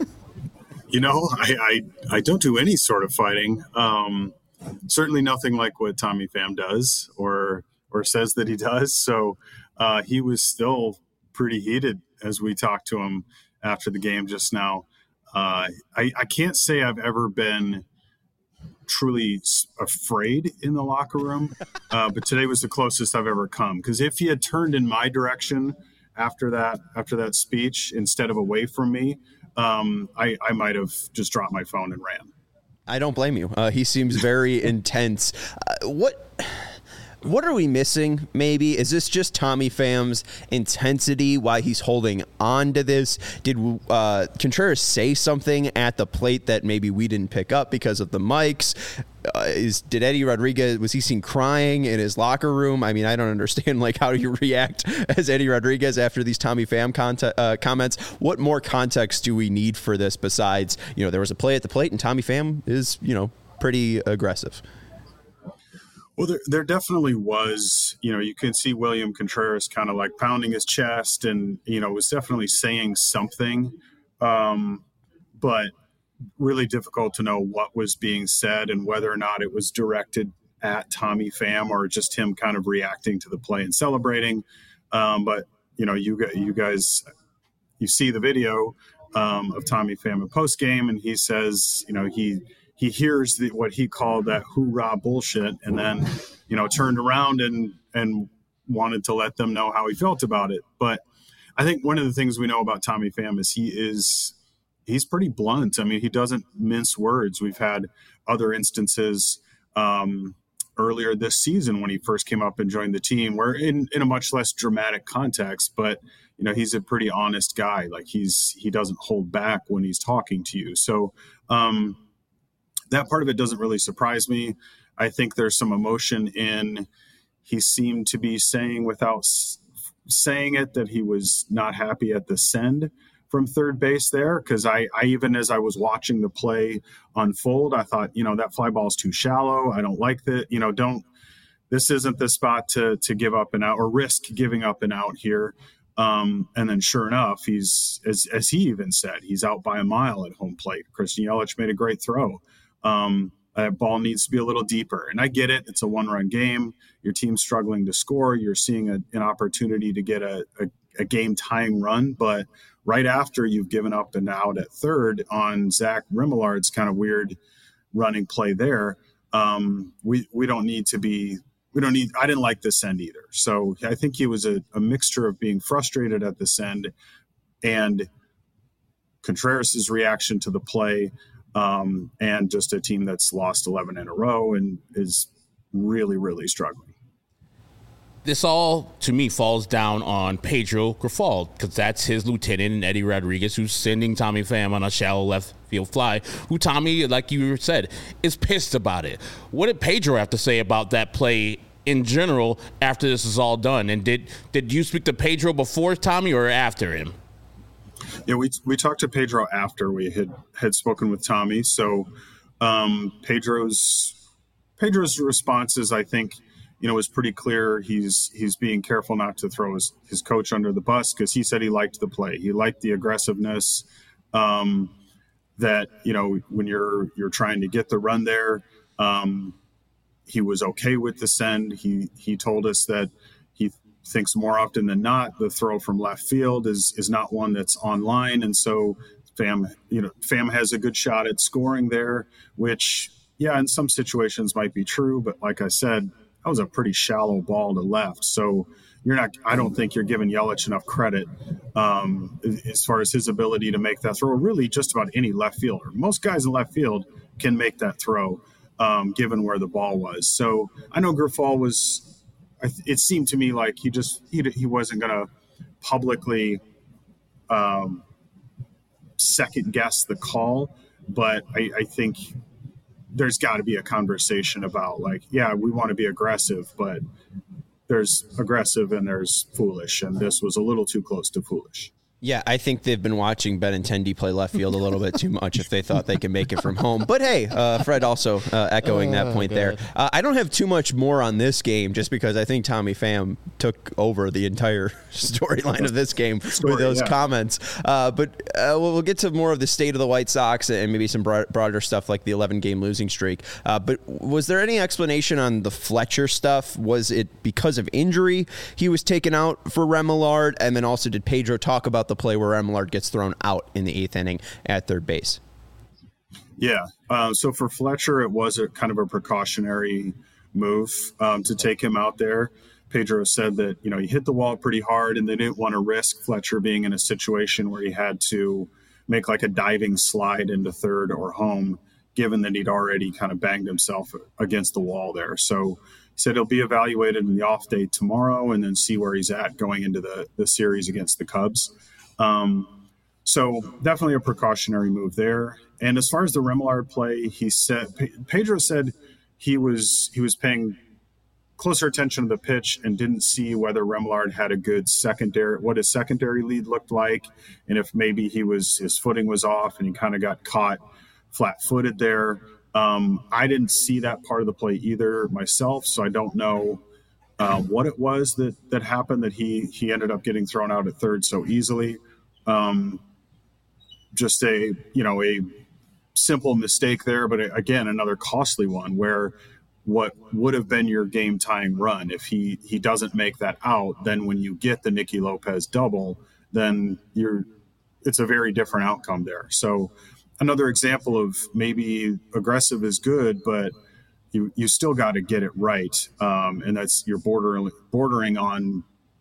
You know, I, I, I don't do any sort of fighting. Um, certainly nothing like what Tommy Pham does or or says that he does. So uh, he was still pretty heated as we talked to him after the game just now. Uh, I, I can't say I've ever been truly afraid in the locker room, uh, but today was the closest I've ever come. Because if he had turned in my direction after that after that speech instead of away from me, Um, I, I might have just dropped my phone and ran. I don't blame you. Uh, he seems very intense. Uh, what what are we missing, maybe? Is this just Tommy Pham's intensity, why he's holding on to this? Did uh, Contreras say something at the plate that maybe we didn't pick up because of the mics? Uh, is did Eddie Rodriguez, was he seen crying in his locker room? I mean, I don't understand, like, how do you react as Eddie Rodriguez after these Tommy Pham conte- uh, comments? What more context do we need for this besides, you know, there was a play at the plate and Tommy Pham is, you know, pretty aggressive? Well, there, there definitely was, you know, you can see William Contreras kind of like pounding his chest and, you know, was definitely saying something, um, but really difficult to know what was being said and whether or not it was directed at Tommy Pham or just him kind of reacting to the play and celebrating. Um, but, you know, you, you guys, you see the video um, of Tommy Pham in post game, and he says, you know, he, he hears the, what he called that hoorah bullshit, and then, you know, turned around and, and wanted to let them know how he felt about it. But I think one of the things we know about Tommy Pham is he is, he's pretty blunt. I mean, he doesn't mince words. We've had other instances um, earlier this season when he first came up and joined the team where in, in a much less dramatic context, but you know, he's a pretty honest guy. Like he's, he doesn't hold back when he's talking to you. So, um, that part of it doesn't really surprise me. I think there's some emotion in, he seemed to be saying without s- saying it that he was not happy at the send from third base there. Cause I, I, even as I was watching the play unfold, I thought, you know, that fly ball is too shallow. I don't like that. You know, don't, this isn't the spot to, to give up and out or risk giving up and out here. Um, and then sure enough, he's, as, as he even said, he's out by a mile at home plate. Christian Yelich made a great throw. Um, that ball needs to be a little deeper. And I get it. It's a one-run game. Your team's struggling to score. You're seeing a, an opportunity to get a, a, a game-tying run. But right after you've given up and out at third on Zach Rimillard's kind of weird running play there, um, we we don't need to be – we don't need – I didn't like this end either. So I think he was a, a mixture of being frustrated at this end and – Contreras' reaction to the play, um, and just a team that's lost eleven in a row and is really, really struggling. This all, to me, falls down on Pedro Grifol, because that's his lieutenant, and Eddie Rodriguez, who's sending Tommy Pham on a shallow left field fly, who Tommy, like you said, is pissed about it. What did Pedro have to say about that play in general after this is all done? And did did you speak to Pedro before Tommy or after him? Yeah, we we talked to Pedro after we had, had spoken with Tommy. So um, Pedro's Pedro's responses, I think, you know, was pretty clear. He's he's being careful not to throw his, his coach under the bus, because he said he liked the play. He liked the aggressiveness, um, that, you know, when you're you're trying to get the run there. Um, he was okay with the send. He he told us that he thinks more often than not the throw from left field is is not one that's online, and so Pham, you know, Pham has a good shot at scoring there, which, yeah, in some situations might be true, but like I said, that was a pretty shallow ball to left. So you're not, I don't think you're giving Yelich enough credit um, as far as his ability to make that throw. Really, just about any left fielder. Most guys in left field can make that throw, um, given where the ball was. So I know Grifol was, it seemed to me like he just, he, he wasn't going to publicly um, second guess the call, but I, I think there's got to be a conversation about, like, yeah, we want to be aggressive, but there's aggressive and there's foolish, and this was a little too close to foolish. Yeah, I think they've been watching Benintendi play left field a little bit too much if they thought they could make it from home. But hey, uh, Fred also uh, echoing that point oh, there. Uh, I don't have too much more on this game, just because I think Tommy Pham took over the entire storyline of this game Story, with those yeah. comments. Uh, but uh, we'll get to more of the state of the White Sox and maybe some broad, broader stuff like the eleven-game losing streak. Uh, but was there any explanation on the Fletcher stuff? Was it because of injury he was taken out for Remillard? And then also, did Pedro talk about the play where Remillard gets thrown out in the eighth inning at third base? Yeah. Uh, so for Fletcher, it was a kind of a precautionary move um, to take him out there. Pedro said that, you know, he hit the wall pretty hard and they didn't want to risk Fletcher being in a situation where he had to make like a diving slide into third or home, given that he'd already kind of banged himself against the wall there. So he said he'll be evaluated in the off day tomorrow and then see where he's at going into the, the series against the Cubs. Um, so definitely a precautionary move there. And as far as the Remillard play, he said, Pedro said he was, he was paying closer attention to the pitch and didn't see whether Remillard had a good secondary, what his secondary lead looked like. And if maybe he was, his footing was off and he kind of got caught flat footed there. Um, I didn't see that part of the play either myself. So I don't know Uh, what it was that that happened that he he ended up getting thrown out at third so easily. Um, just a you know a simple mistake there, but again another costly one where what would have been your game tying run, if he he doesn't make that out, then when you get the Nicky Lopez double, then you're it's a very different outcome there. So another example of maybe aggressive is good, but You, you still got to get it right, um, and that's you're bordering bordering on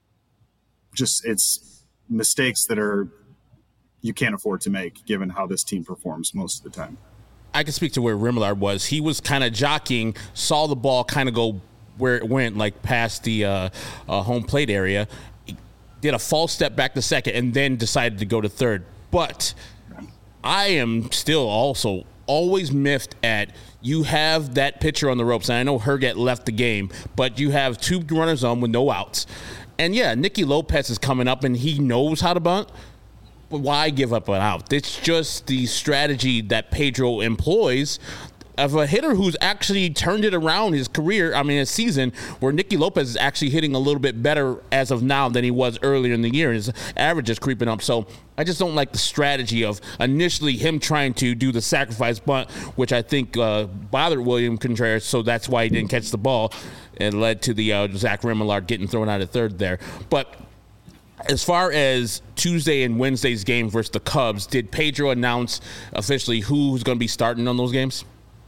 just it's mistakes that are you can't afford to make given how this team performs most of the time. I can speak to where Remillard was. He was kind of jockeying, saw the ball kind of go where it went, like past the uh, uh, home plate area, he did a false step back to second, and then decided to go to third. But I am still also always miffed at you have that pitcher on the ropes, and I know Herget left the game, but you have two runners on with no outs. And, yeah, Nicky Lopez is coming up, and he knows how to bunt, but why give up an out? It's just the strategy that Pedro employs of a hitter who's actually turned it around his career, I mean his season, where Nicky Lopez is actually hitting a little bit better as of now than he was earlier in the year, and his average is creeping up. So I just don't like the strategy of initially him trying to do the sacrifice bunt, which I think uh, bothered William Contreras, so that's why he didn't catch the ball, and led to the uh, Zach Remillard getting thrown out at third there. But as far as Tuesday and Wednesday's game versus the Cubs, did Pedro announce officially who's going to be starting on those games?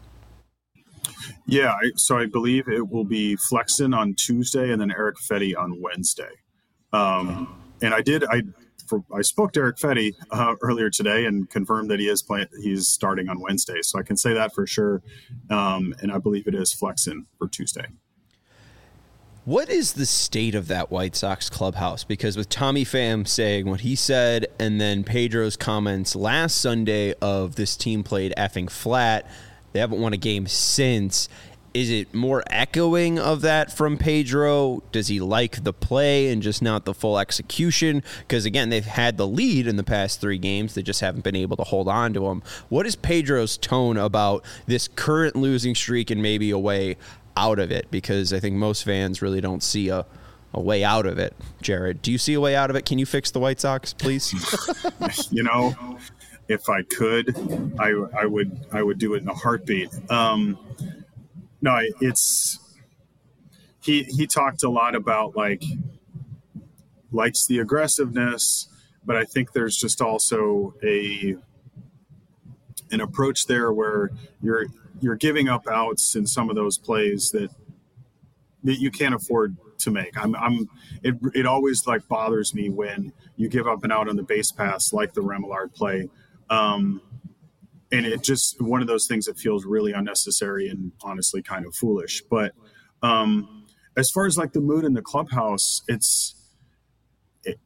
Yeah, so I believe it will be Flexen on Tuesday and then Eric Fetty on Wednesday. Um, and I did, I for, I spoke to Eric Fetty uh, earlier today and confirmed that he is playing. He's starting on Wednesday, so I can say that for sure. Um, and I believe it is Flexen for Tuesday. What is the state of that White Sox clubhouse? Because with Tommy Pham saying what he said and then Pedro's comments last Sunday of this team played effing flat, they haven't won a game since. Is it more echoing of that from Pedro? Does he like the play and just not the full execution? Because, again, they've had the lead in the past three games. They just haven't been able to hold on to them. What is Pedro's tone about this current losing streak and maybe a way out of it? Because I think most fans really don't see a, a way out of it. Jared, do you see a way out of it? Can you fix the White Sox, please? You know, if I could, I, I would I would do it in a heartbeat. Um, no, it's he he talked a lot about like likes the aggressiveness, but I think there's just also a an approach there where you're you're giving up outs in some of those plays that that you can't afford to make. I'm, I'm, it, it always like bothers me when you give up an out on the base pass, like the Remillard play. Um, and it just, one of those things that feels really unnecessary and honestly kind of foolish. But um, as far as like the mood in the clubhouse, it's, it,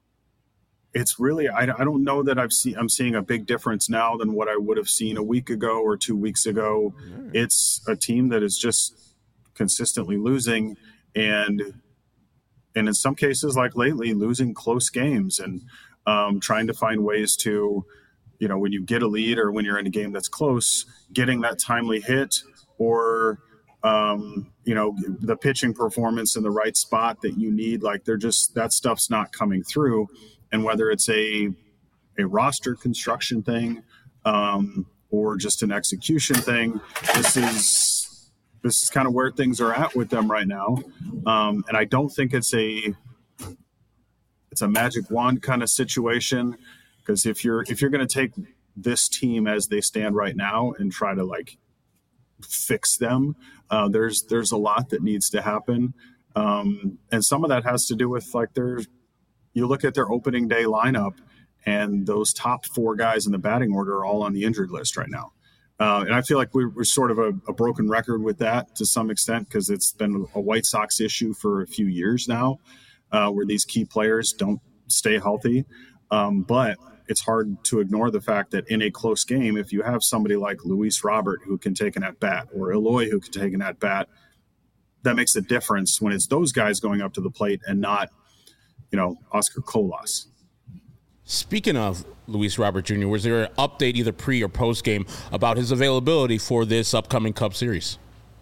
it's really, I, I don't know that I've seen, I'm seeing a big difference now than what I would have seen a week ago or two weeks ago. Mm. It's a team that is just consistently losing and, and in some cases, like lately, losing close games and um, trying to find ways to, you know, when you get a lead or when you're in a game that's close, getting that timely hit or, um, you know, the pitching performance in the right spot that you need. Like they're just, that stuff's not coming through. And whether it's a, a roster construction thing um, or just an execution thing, this is, this is kind of where things are at with them right now. Um, and I don't think it's a, it's a magic wand kind of situation. Because if you're if you're going to take this team as they stand right now and try to like fix them, uh, there's there's a lot that needs to happen, um, and some of that has to do with like their. You look at their opening day lineup, and those top four guys in the batting order are all on the injured list right now, uh, and I feel like we're, we're sort of a, a broken record with that to some extent because it's been a White Sox issue for a few years now, uh, where these key players don't stay healthy, um, but. It's hard to ignore the fact that in a close game, if you have somebody like Luis Robert who can take an at-bat or Eloy who can take an at-bat, that makes a difference when it's those guys going up to the plate and not, you know, Oscar Colas. Speaking of Luis Robert Junior, was there an update either pre or post game about his availability for this upcoming Cup Series?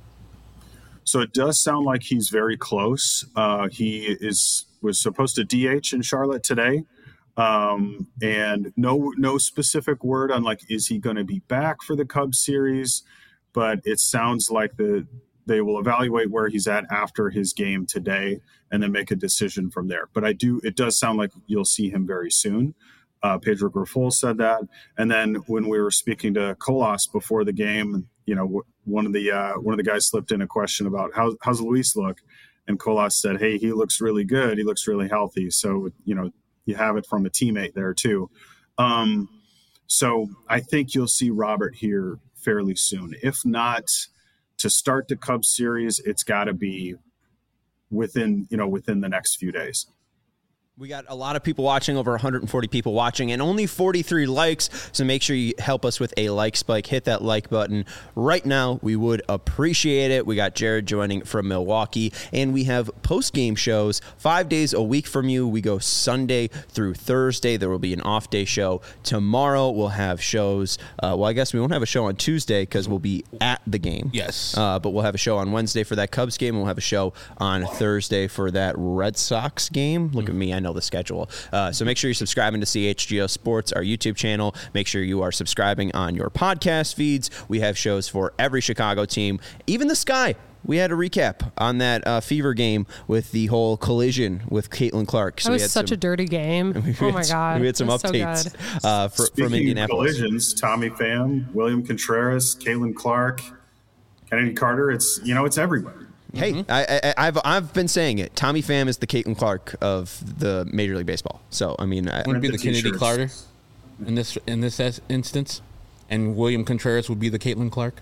So it does sound like he's very close. Uh, he is was supposed to D H in Charlotte today. Um, and no, no specific word on like, is he going to be back for the Cubs series? But it sounds like the, they will evaluate where he's at after his game today and then make a decision from there. But I do, it does sound like you'll see him very soon. Uh, Pedro Grifol said that. And then when we were speaking to Colas before the game, you know, one of the, uh, one of the guys slipped in a question about how, how's Luis look? And Colas said, hey, he looks really good. He looks really healthy. So, you know, you have it from a teammate there too. Um, so I think you'll see Robert here fairly soon. If not to start the Cubs series, it's got to be within, you know, within the next few days. We got a lot of people watching, over one hundred forty people watching, and only forty-three likes. So make sure you help us with a like spike. Hit that like button right now. We would appreciate it. We got Jared joining from Milwaukee, and we have post-game shows five days a week from you. We go Sunday through Thursday. There will be an off-day show. Tomorrow we'll have shows. Uh, well, I guess we won't have a show on Tuesday because we'll be at the game. Yes. Uh, but we'll have a show on Wednesday for that Cubs game, and we'll have a show on Thursday for that Red Sox game. Look mm-hmm. at me. I know the schedule. Uh, so make sure you're subscribing to C H G O Sports, our YouTube channel. Make sure you are subscribing on your podcast feeds. We have shows for every Chicago team, even the Sky. We had a recap on that uh, Fever game with the whole collision with Caitlin Clark. So that was such some, a dirty game. Oh, my God. We had some updates so uh, for, from Indianapolis. Collisions, Tommy Pham, William Contreras, Caitlin Clark, Kennedy Carter. It's, you know, it's everywhere. Hey, mm-hmm. I, I, I've I've been saying it. Tommy Pham is the Caitlin Clark of the Major League Baseball. So I mean, I, would be the, the Kennedy Carter in this in this instance, and William Contreras would be the Caitlin Clark.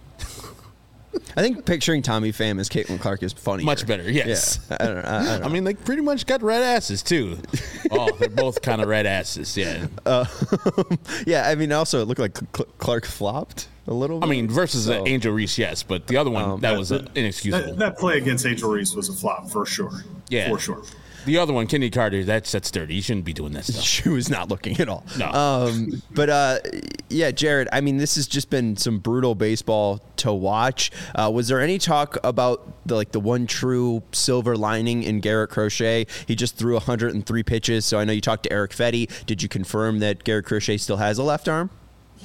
I think picturing Tommy Pham as Caitlin Clark is funny. Much better, yes. Yeah, I, don't, I, I, don't know. I mean, they pretty much got red asses, too. Oh, they're both kind of red asses, yeah. Uh, yeah, I mean, also, it looked like Clark flopped a little bit. I mean, versus so. Angel Reese, yes, but the other one, um, that, that was uh, inexcusable. That, that play against Angel Reese was a flop, for sure. Yeah. For sure. The other one, Kennedy Carter, that's that's dirty. You shouldn't be doing that stuff. She was not looking at all. No. Um, but, uh, yeah, Jared, I mean, this has just been some brutal baseball to watch. Uh, was there any talk about the like the one true silver lining in Garrett Crochet? He just threw one hundred three pitches, so I know you talked to Eric Fetty. Did you confirm that Garrett Crochet still has a left arm?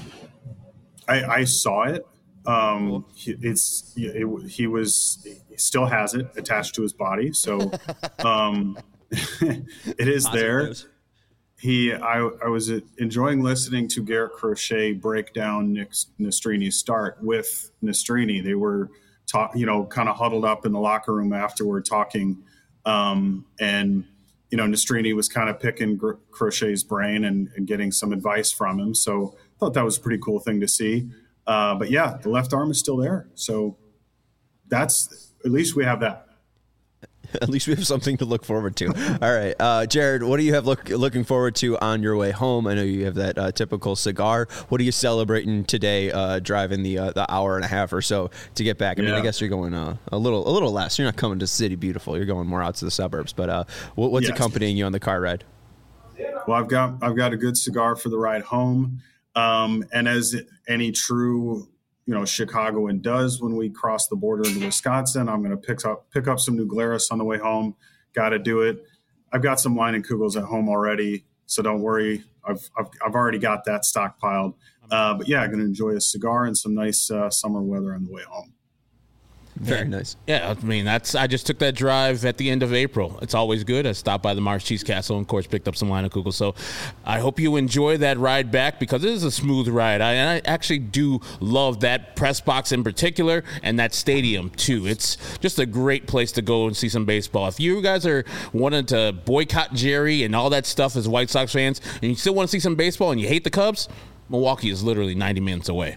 I, I saw it. Um, it's it, he was he still has it attached to his body, so um, it is there. He I, I was enjoying listening to Garrett Crochet break down Nick Nestrini's start with Nestrini. They were talk, you know, kind of huddled up in the locker room afterward talking, um, and you know Nestrini was kind of picking Crochet's brain and, and getting some advice from him. So I thought that was a pretty cool thing to see. Uh, but yeah, the left arm is still there. So that's, at least we have that. At least we have something to look forward to. All right. Uh, Jared, what do you have look, looking forward to on your way home? I know you have that uh, typical cigar. What are you celebrating today, uh, driving the uh, the hour and a half or so to get back? I mean, yeah. I guess you're going uh, a little a little less. You're not coming to City Beautiful. You're going more out to the suburbs. But uh, what, what's yes. accompanying you on the car ride? Well, I've got I've got a good cigar for the ride home. Um, and as any true, you know, Chicagoan does when we cross the border into Wisconsin, I'm going to pick up pick up some New Glarus on the way home. Got to do it. I've got some Leinenkugels at home already, so don't worry. I've I've, I've already got that stockpiled. Uh, but yeah, I'm going to enjoy a cigar and some nice uh, summer weather on the way home. Very yeah. nice. Yeah, I mean, that's. I just took that drive at the end of April. It's always good. I stopped by the Mars Cheese Castle and, of course, picked up some Leinenkugel. So I hope you enjoy that ride back because it is a smooth ride. I, and I actually do love that press box in particular and that stadium, too. It's just a great place to go and see some baseball. If you guys are wanting to boycott Jerry and all that stuff as White Sox fans and you still want to see some baseball and you hate the Cubs, Milwaukee is literally ninety minutes away.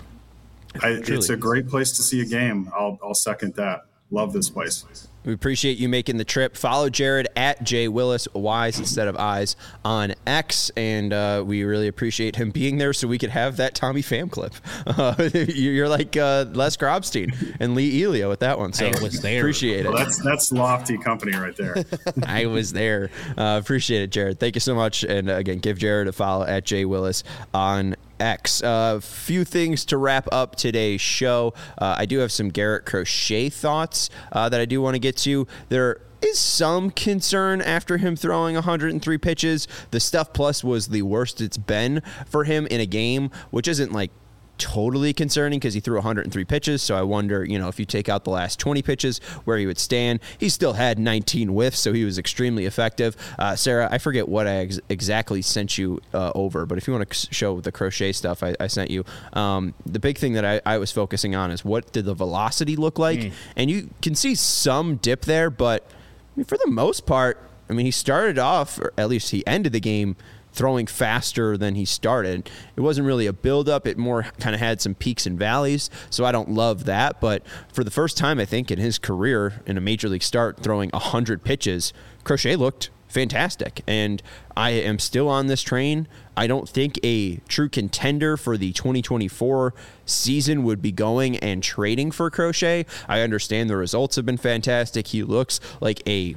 I, it's a great place to see a game. I'll, I'll second that. Love this place. We appreciate you making the trip. Follow Jared at J Willis, Y's instead of I's on X, and uh, we really appreciate him being there so we could have that Tommy Pham clip. Uh, you're like uh, Les Grobstein and Lee Elio with that one, so I was there. Appreciate it. Well, that's that's lofty company right there. I was there. Uh, appreciate it, Jared. Thank you so much, and uh, again, give Jared a follow at J Willis on X. A uh, few things to wrap up today's show. Uh, I do have some Garrett Crochet thoughts uh, that I do want to get to. There is some concern after him throwing one hundred three pitches. The Stuff Plus was the worst it's been for him in a game, which isn't like totally concerning because he threw one hundred three pitches. So I wonder, you know, if you take out the last twenty pitches, where he would stand. He still had nineteen whiffs, so he was extremely effective. Uh, Sarah, I forget what I ex- exactly sent you uh, over, but if you want to show the Crochet stuff I, I sent you, um, the big thing that I, I was focusing on is what did the velocity look like? Mm. And you can see some dip there, but I mean, for the most part, I mean, he started off, or at least he ended the game throwing faster than he started. It wasn't really a buildup. It more kind of had some peaks and valleys, so I don't love that. But for the first time, I think, in his career, in a major league start, throwing one hundred pitches, Crochet looked fantastic. And I am still on this train. I don't think a true contender for the twenty twenty-four season would be going and trading for Crochet. I understand the results have been fantastic. He looks like a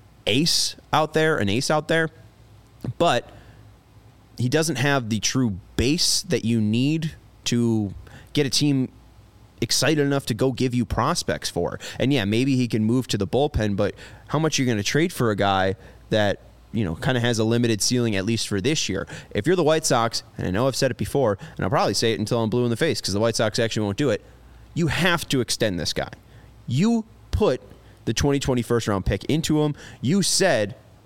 ace out there, an ace out there. But he doesn't have the true base that you need to get a team excited enough to go give you prospects for. And yeah, maybe he can move to the bullpen, but how much are you going to trade for a guy that, you know, kind of has a limited ceiling, at least for this year? If you're the White Sox, and I know I've said it before, and I'll probably say it until I'm blue in the face because the White Sox actually won't do it, you have to extend this guy. You put the twenty twenty first round pick into him. You said,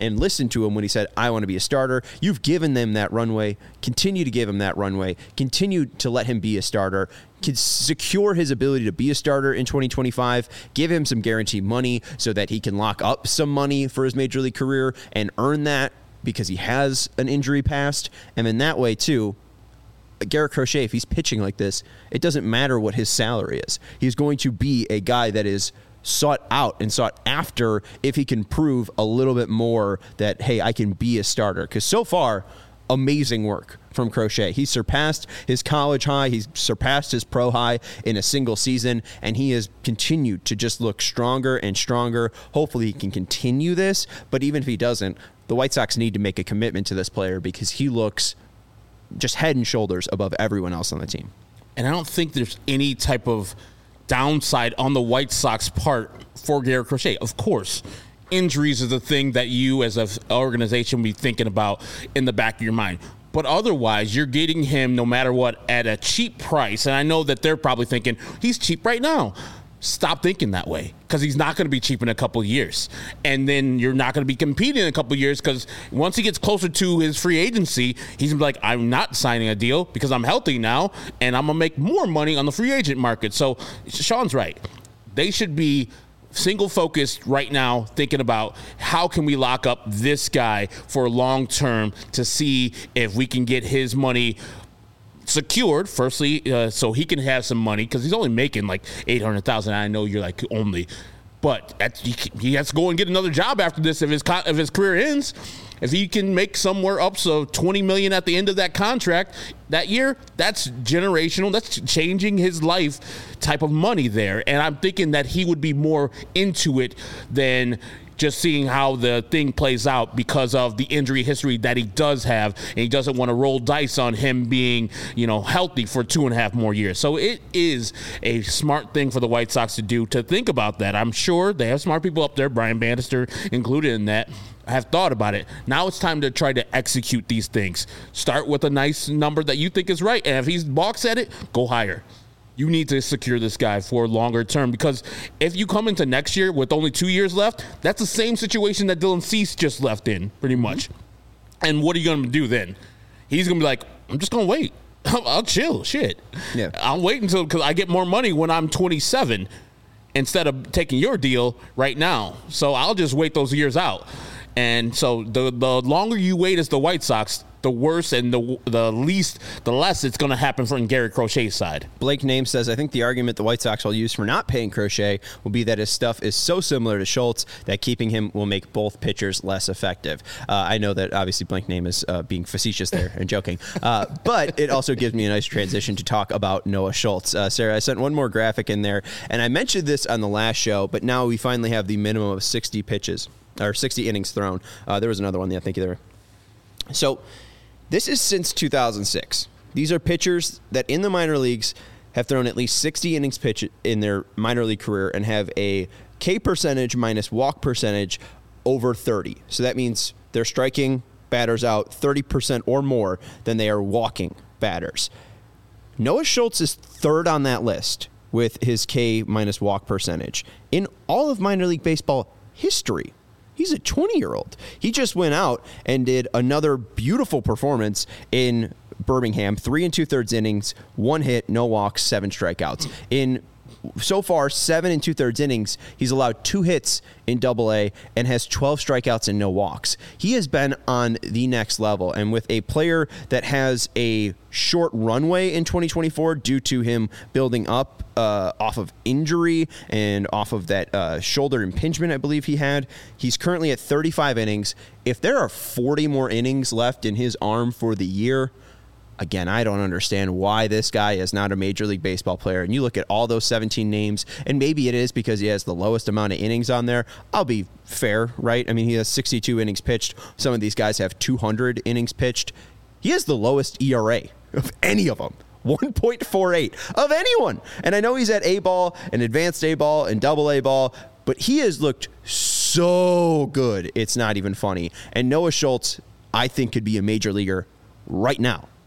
and listened to him when he said, I want to be a starter. You've given them that runway. Continue to give him that runway. Continue to let him be a starter. Can secure his ability to be a starter in twenty twenty-five. Give him some guaranteed money so that he can lock up some money for his major league career and earn that because he has an injury past. And in that way, too, Garrett Crochet, if he's pitching like this, it doesn't matter what his salary is. He's going to be a guy that is sought out and sought after if he can prove a little bit more that, hey, I can be a starter. Because so far, amazing work from Crochet. He surpassed his college high. He's surpassed his pro high in a single season, and he has continued to just look stronger and stronger. Hopefully he can continue this, but even if he doesn't, the White Sox need to make a commitment to this player because he looks just head and shoulders above everyone else on the team. And I don't think there's any type of downside on the White Sox part for Garrett Crochet. Of course, injuries is the thing that you as an organization will be thinking about in the back of your mind. But otherwise, you're getting him no matter what at a cheap price. And I know that they're probably thinking, he's cheap right now. Stop thinking that way because he's not going to be cheap in a couple of years. And then you're not going to be competing in a couple of years because once he gets closer to his free agency, he's going to be like, I'm not signing a deal because I'm healthy now and I'm going to make more money on the free agent market. So Sean's right. They should be single focused right now thinking about how can we lock up this guy for long term to see if we can get his money secured, firstly, uh, so he can have some money because he's only making like eight hundred thousand dollars. I know you're like only, but at, he, he has to go and get another job after this if his if his career ends. If he can make somewhere up so twenty million dollars at the end of that contract that year, that's generational. That's changing his life type of money there. And I'm thinking that he would be more into it than just seeing how the thing plays out because of the injury history that he does have, and he doesn't want to roll dice on him being, you know, healthy for two and a half more years. So it is a smart thing for the White Sox to do, to think about that. I'm sure they have smart people up there, Brian Bannister included in that, have thought about it. Now it's time to try to execute these things. Start with a nice number that you think is right, and if he balks at it, go higher. You need to secure this guy for longer term because if you come into next year with only two years left, that's the same situation that Dylan Cease just left in, pretty much. And what are you going to do then? He's going to be like, I'm just going to wait. I'll, I'll chill. Shit. Yeah. I'll wait until because I get more money when I'm twenty-seven instead of taking your deal right now. So I'll just wait those years out. And so the the longer you wait as the White Sox, the worse and the the least, the less it's going to happen from Garrett Crochet's side. Blake Name says, I think the argument the White Sox will use for not paying Crochet will be that his stuff is so similar to Schultz that keeping him will make both pitchers less effective. Uh, I know that obviously Blake Name is uh, being facetious there and joking, uh, but it also gives me a nice transition to talk about Noah Schultz. Uh, Sarah, I sent one more graphic in there, and I mentioned this on the last show, but now we finally have the minimum of sixty pitches, or sixty innings thrown. Uh, there was another one, I think there. So this is since two thousand six. These are pitchers that in the minor leagues have thrown at least sixty innings pitch in their minor league career and have a K percentage minus walk percentage over thirty. So that means they're striking batters out thirty percent or more than they are walking batters. Noah Schultz is third on that list with his K minus walk percentage in all of minor league baseball history. He's a twenty-year-old. He just went out and did another beautiful performance in Birmingham. Three and two-thirds innings, one hit, no walks, seven strikeouts. In so far, seven and two-thirds innings, he's allowed two hits in Double A and has twelve strikeouts and no walks. He has been on the next level, and with a player that has a short runway in twenty twenty-four due to him building up uh, off of injury and off of that uh, shoulder impingement I believe he had, he's currently at thirty-five innings. If there are forty more innings left in his arm for the year, again, I don't understand why this guy is not a Major League Baseball player. And you look at all those seventeen names, and maybe it is because he has the lowest amount of innings on there. I'll be fair, right? I mean, he has sixty-two innings pitched. Some of these guys have two hundred innings pitched. He has the lowest E R A of any of them. one point four eight of anyone. And I know he's at A-ball and advanced A-ball and double A-ball, but he has looked so good. It's not even funny. And Noah Schultz, I think, could be a major leaguer right now.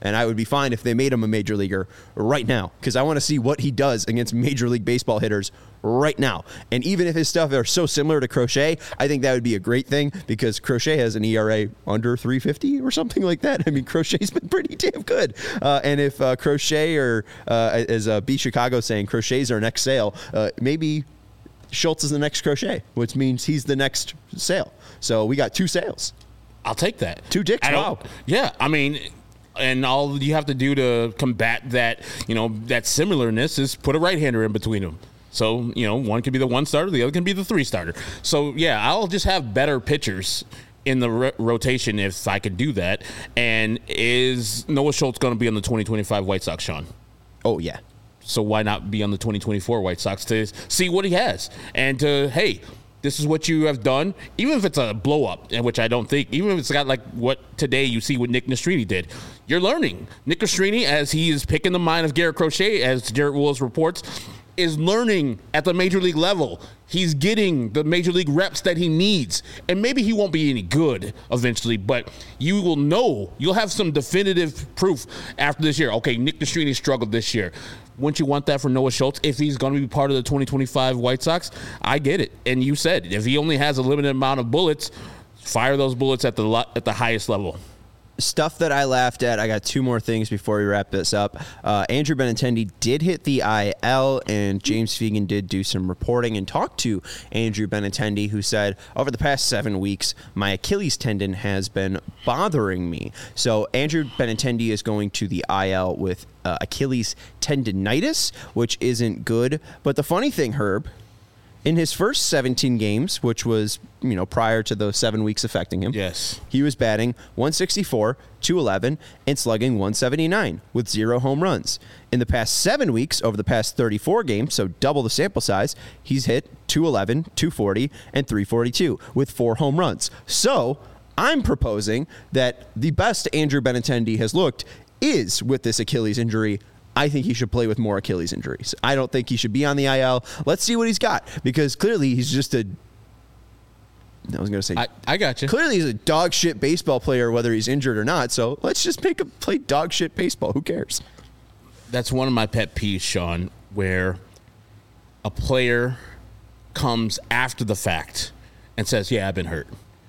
and I would be fine if they made him a major leaguer right now, because I want to see what he does against Major League Baseball hitters right now. And even if his stuff are so similar to Crochet, I think that would be a great thing, because Crochet has an E R A under three fifty or something like that. I mean, Crochet's been pretty damn good. Uh, and if uh, Crochet, or uh, as uh, B Chicago saying, Crochet's our next Sale, uh, maybe Schultz is the next Crochet, which means he's the next Sale. So we got two Sales. I'll take that. Two dicks. Wow. Yeah, I mean, and all you have to do to combat that, you know, that similarness is put a right-hander in between them. So, you know, one can be the one starter, the other can be the three starter. So, yeah, I'll just have better pitchers in the ro- rotation if I could do that. And is Noah Schultz going to be on the twenty twenty-five White Sox, Sean? Oh, yeah. So why not be on the twenty twenty-four White Sox to see what he has? And to, hey, this is what you have done, even if it's a blow-up, which I don't think, even if it's got like what today you see what Nick Nastrini did. You're learning. Nick Nastrini, as he is picking the mind of Garrett Crochet, as Garrett Wills reports, is learning at the major league level. He's getting the major league reps that he needs. And maybe he won't be any good eventually, but you will know. You'll have some definitive proof after this year. Okay, Nick Nastrini struggled this year. Wouldn't you want that for Noah Schultz if he's going to be part of the twenty twenty-five White Sox? I get it. And you said, if he only has a limited amount of bullets, fire those bullets at the lo- at the highest level. Stuff that I laughed at. I got two more things before we wrap this up. Uh, Andrew Benintendi did hit the I L, and James Fegan did do some reporting and talk to Andrew Benintendi, who said, over the past seven weeks, my Achilles tendon has been bothering me. So Andrew Benintendi is going to the I L with uh, Achilles tendonitis, which isn't good. But the funny thing, Herb, in his first seventeen games, which was, you know, prior to those seven weeks affecting him, yes, he was batting one sixty-four, two eleven, and slugging one seventy-nine with zero home runs. In the past seven weeks, over the past thirty-four games, so double the sample size, he's hit two eleven, two forty, and three forty-two with four home runs. So I'm proposing that the best Andrew Benintendi has looked is with this Achilles injury. I think he should play with more Achilles injuries. I don't think he should be on the I L. Let's see what he's got, because clearly he's just a I was going to say I, I got you. Clearly he's a dog shit baseball player, whether he's injured or not. So let's just make him play dog shit baseball. Who cares? That's one of my pet peeves, Sean, where a player comes after the fact and says, yeah, I've been hurt.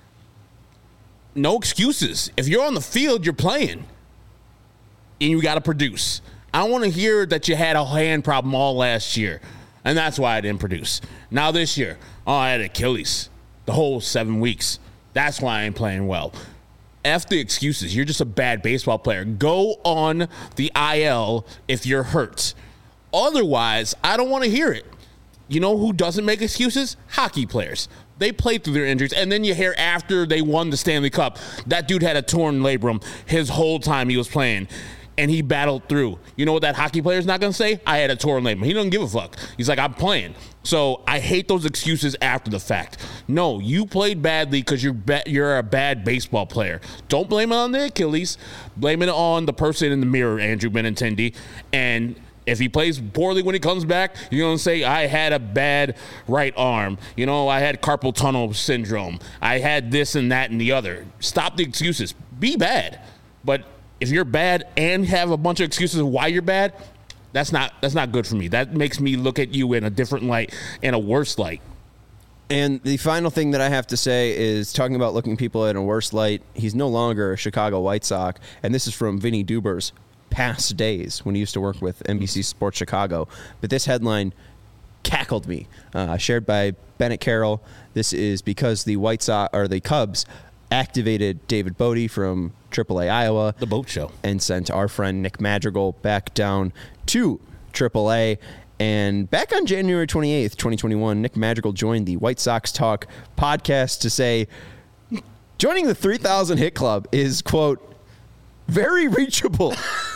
No excuses. If you're on the field, you're playing. And you got to produce. I don't want to hear that you had a hand problem all last year, and that's why I didn't produce. Now this year, oh, I had Achilles the whole seven weeks. That's why I ain't playing well. F the excuses. You're just a bad baseball player. Go on the I L if you're hurt. Otherwise, I don't want to hear it. You know who doesn't make excuses? Hockey players. They played through their injuries, and then you hear after they won the Stanley Cup, that dude had a torn labrum his whole time he was playing. And he battled through. You know what that hockey player is not going to say? I had a torn labrum. He doesn't give a fuck. He's like, I'm playing. So I hate those excuses after the fact. No, you played badly because you're ba- you're a bad baseball player. Don't blame it on the Achilles. Blame it on the person in the mirror, Andrew Benintendi. And if he plays poorly when he comes back, you're going to say, I had a bad right arm. You know, I had carpal tunnel syndrome. I had this and that and the other. Stop the excuses. Be bad. But if you're bad and have a bunch of excuses of why you're bad, that's not that's not good for me. That makes me look at you in a different light, in a worse light. And the final thing that I have to say is, talking about looking people in a worse light, he's no longer a Chicago White Sox. And this is from Vinny Duber's past days when he used to work with N B C Sports Chicago. But this headline cackled me, uh, shared by Bennett Carroll. This is because the White Sox, or the Cubs, activated David Bodie from triple A Iowa. The boat show. And sent our friend Nick Madrigal back down to triple A. And back on January twenty-eighth, twenty twenty-one, Nick Madrigal joined the White Sox Talk podcast to say, joining the three thousand hit club is, quote, very reachable.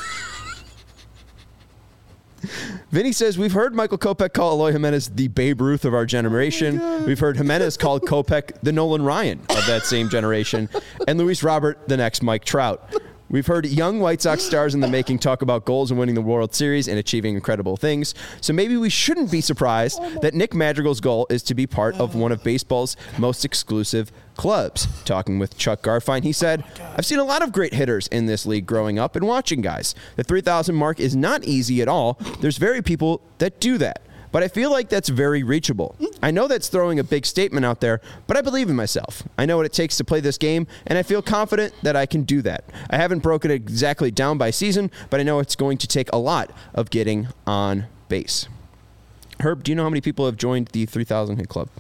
Vinny says, we've heard Michael Kopech call Eloy Jimenez the Babe Ruth of our generation. Oh, we've heard Jimenez call Kopech the Nolan Ryan of that same generation, and Luis Robert the next Mike Trout. We've heard young White Sox stars in the making talk about goals and winning the World Series and achieving incredible things. So maybe we shouldn't be surprised that Nick Madrigal's goal is to be part of one of baseball's most exclusive clubs. Talking with Chuck Garfien, he said, I've seen a lot of great hitters in this league growing up and watching guys. The three thousand mark is not easy at all. There's very people that do that. But I feel like that's very reachable. I know that's throwing a big statement out there, but I believe in myself. I know what it takes to play this game, and I feel confident that I can do that. I haven't broken it exactly down by season, but I know it's going to take a lot of getting on base. Herb, do you know how many people have joined the three thousand hit club?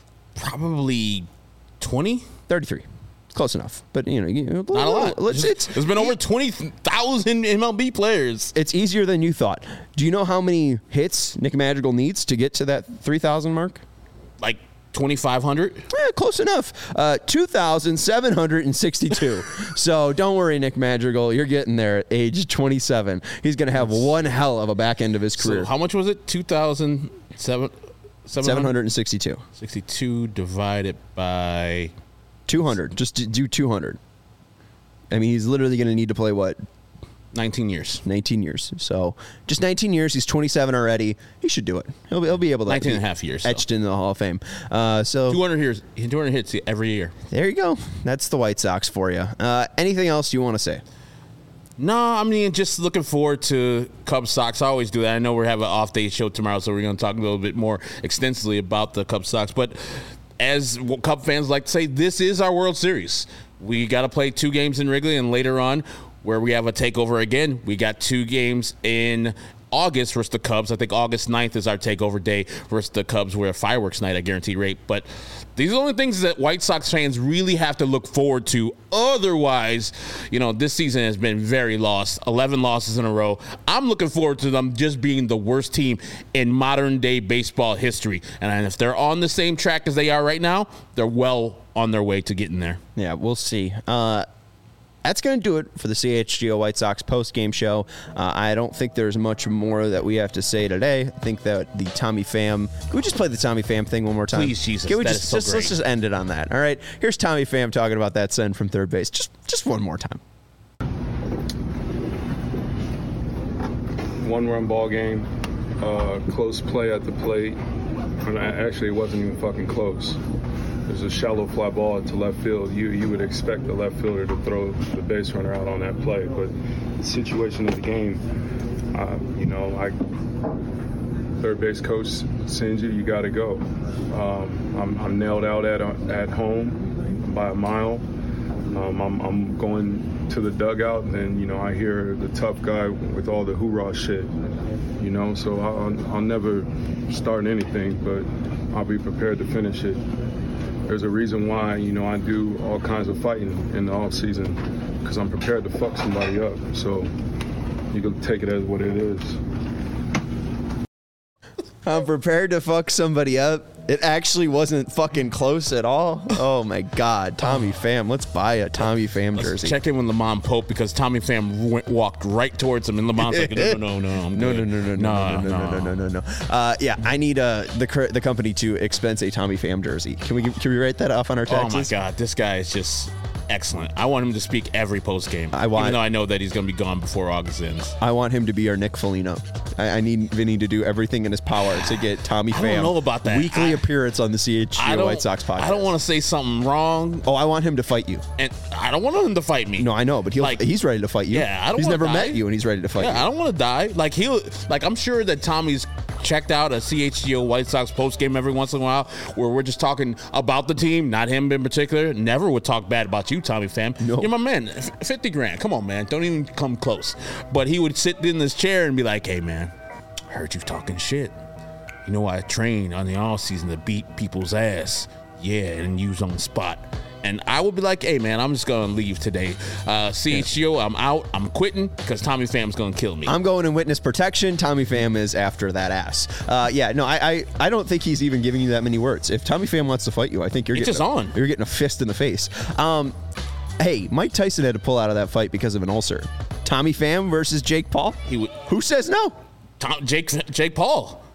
Probably twenty? thirty-three. Close enough, but you know, you know not a lot. It's, it's, There's been over twenty thousand M L B players. It's easier than you thought. Do you know how many hits Nick Madrigal needs to get to that three thousand mark? Like twenty-five hundred? Yeah, close enough. Uh, two thousand seven hundred sixty-two. So don't worry, Nick Madrigal. You're getting there at age twenty-seven. He's going to have one hell of a back end of his career. So how much was it? two thousand seven hundred? seven hundred sixty-two. sixty-two divided by two hundred. Just do two hundred. I mean, he's literally going to need to play, what? nineteen years. nineteen years. So just nineteen years. He's twenty-seven already. He should do it. He'll be, he'll be able to. nineteen and a half years. Etched so. into the Hall of Fame. Uh, so two hundred years, two hundred hits every year. There you go. That's the White Sox for you. Uh, anything else you want to say? No, I mean, just looking forward to Cubs Sox. I always do that. I know we're having an off day show tomorrow, so we're going to talk a little bit more extensively about the Cubs Sox. But as Cub fans like to say, this is our World Series. We got to play two games in Wrigley, and later on, where we have a takeover again, we got two games in August versus the Cubs. I think August ninth is our takeover day versus the Cubs. We're a fireworks night at Guaranteed Rate. But these are the only things that White Sox fans really have to look forward to. Otherwise, you know, this season has been very lost. eleven losses in a row. I'm looking forward to them just being the worst team in modern day baseball history. And if they're on the same track as they are right now, they're well on their way to getting there. Yeah, we'll see. Uh, That's going to do it for the C H G O White Sox post-game show. Uh, I don't think there's much more that we have to say today. I think that the Tommy Pham... Can we just play the Tommy Pham thing one more time? Please, Jesus. Can we that just, is so just great. Let's just end it on that. All right? Here's Tommy Pham talking about that send from third base. Just, just one more time. One-run ball game, uh, close play at the plate. And actually, it wasn't even fucking close. There's a shallow fly ball to left field. You you would expect the left fielder to throw the base runner out on that play, but the situation of the game, uh, you know, I third base coach sends you, you got to go. Um, I'm, I'm nailed out at at home by a mile. Um, I'm, I'm going to the dugout, and then you know I hear the tough guy with all the hoorah shit. You know, so I'll, I'll never start anything, but I'll be prepared to finish it. There's a reason why, you know, I do all kinds of fighting in the off season, because I'm prepared to fuck somebody up. So you can take it as what it is. I'm prepared to fuck somebody up. It actually wasn't fucking close at all. Oh my God, Tommy Pham. Let's buy a Tommy Pham Let's jersey. check in with Lamont Pope, because Tommy Pham went, walked right towards him, and Lamont's like, no, no, no, no, I'm no, good. no, no, no, no, no, no, no, no, no, no, no. Uh, yeah, I need uh, the cr- the company to expense a Tommy Pham jersey. Can we can we write that off on our taxes? Oh my God, this guy is just excellent. I want him to speak every post game. I want, even though I know that he's going to be gone before August ends. I want him to be our Nick Foligno. I, I need Vinny to do everything in his power to get Tommy Pham I don't know about that. weekly I, appearance on the C H G O White Sox podcast. I don't want to say something wrong. Oh, I want him to fight you. And I don't want him to fight me. No, I know, but he'll, Like, he's ready to fight you. Yeah, I don't He's wanna never die. met you, and he's ready to fight Yeah, you. I don't want to die. Like he'll, like I'm sure that Tommy's checked out a C H G O White Sox post game every once in a while, where we're just talking about the team, not him in particular. Never would talk bad about you, Tommy Pham. No. You're my man. F- Fifty grand. Come on, man. Don't even come close. But he would sit in this chair and be like, "Hey, man, I heard you talking shit. You know I train on the off season to beat people's ass. Yeah, and use on the spot." And I would be like, hey, man, I'm just going to leave today. Uh, C H G O, I'm out. I'm quitting because Tommy Pham's going to kill me. I'm going in witness protection. Tommy Pham is after that ass. Uh, yeah, no, I, I I don't think he's even giving you that many words. If Tommy Pham wants to fight you, I think you're It's getting just a, on. You're getting a fist in the face. Um, hey, Mike Tyson had to pull out of that fight because of an ulcer. Tommy Pham versus Jake Paul? He would, Who says no? Tom, Jake Jake Paul.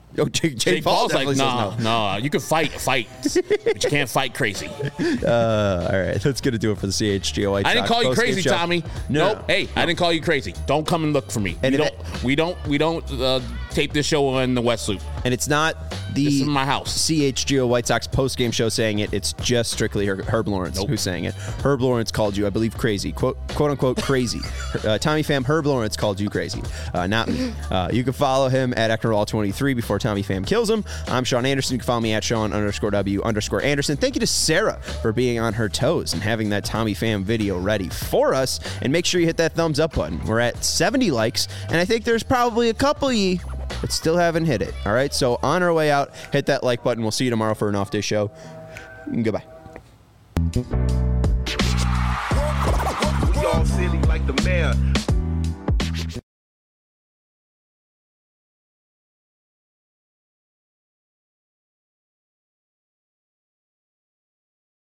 Oh, Jake, Jake, Jake Paul Paul's like, definitely nah, says no. nah, you can fight, fight, but you can't fight crazy. Uh, all right, that's going to do it for the C H G O White I didn't Sox call you post-game crazy, show. Tommy. No, nope. no, Hey, no. I didn't call you crazy. Don't come and look for me. And we, if don't, we don't. We don't. Uh, tape this show in the West Loop. And it's not the This is my house. C H G O White Sox post-game show saying it. It's just strictly Her- Herb Lawrence Nope. who's saying it. Herb Lawrence called you, I believe, crazy. Quote, quote unquote, crazy. uh, Tommy Pham, Herb Lawrence called you crazy. Uh, not me. Uh, you can follow him at Ecknerall twenty-three before Tommy Pham kills him. I'm Sean Anderson. You can follow me at Sean underscore W underscore Anderson. Thank you to Sarah for being on her toes and having that Tommy Pham video ready for us. And make sure you hit that thumbs up button. We're at seventy likes, and I think there's probably a couple of ye but still haven't hit it. All right, so on our way out, hit that like button. We'll see you tomorrow for an off day show. Goodbye. We all silly like the mayor.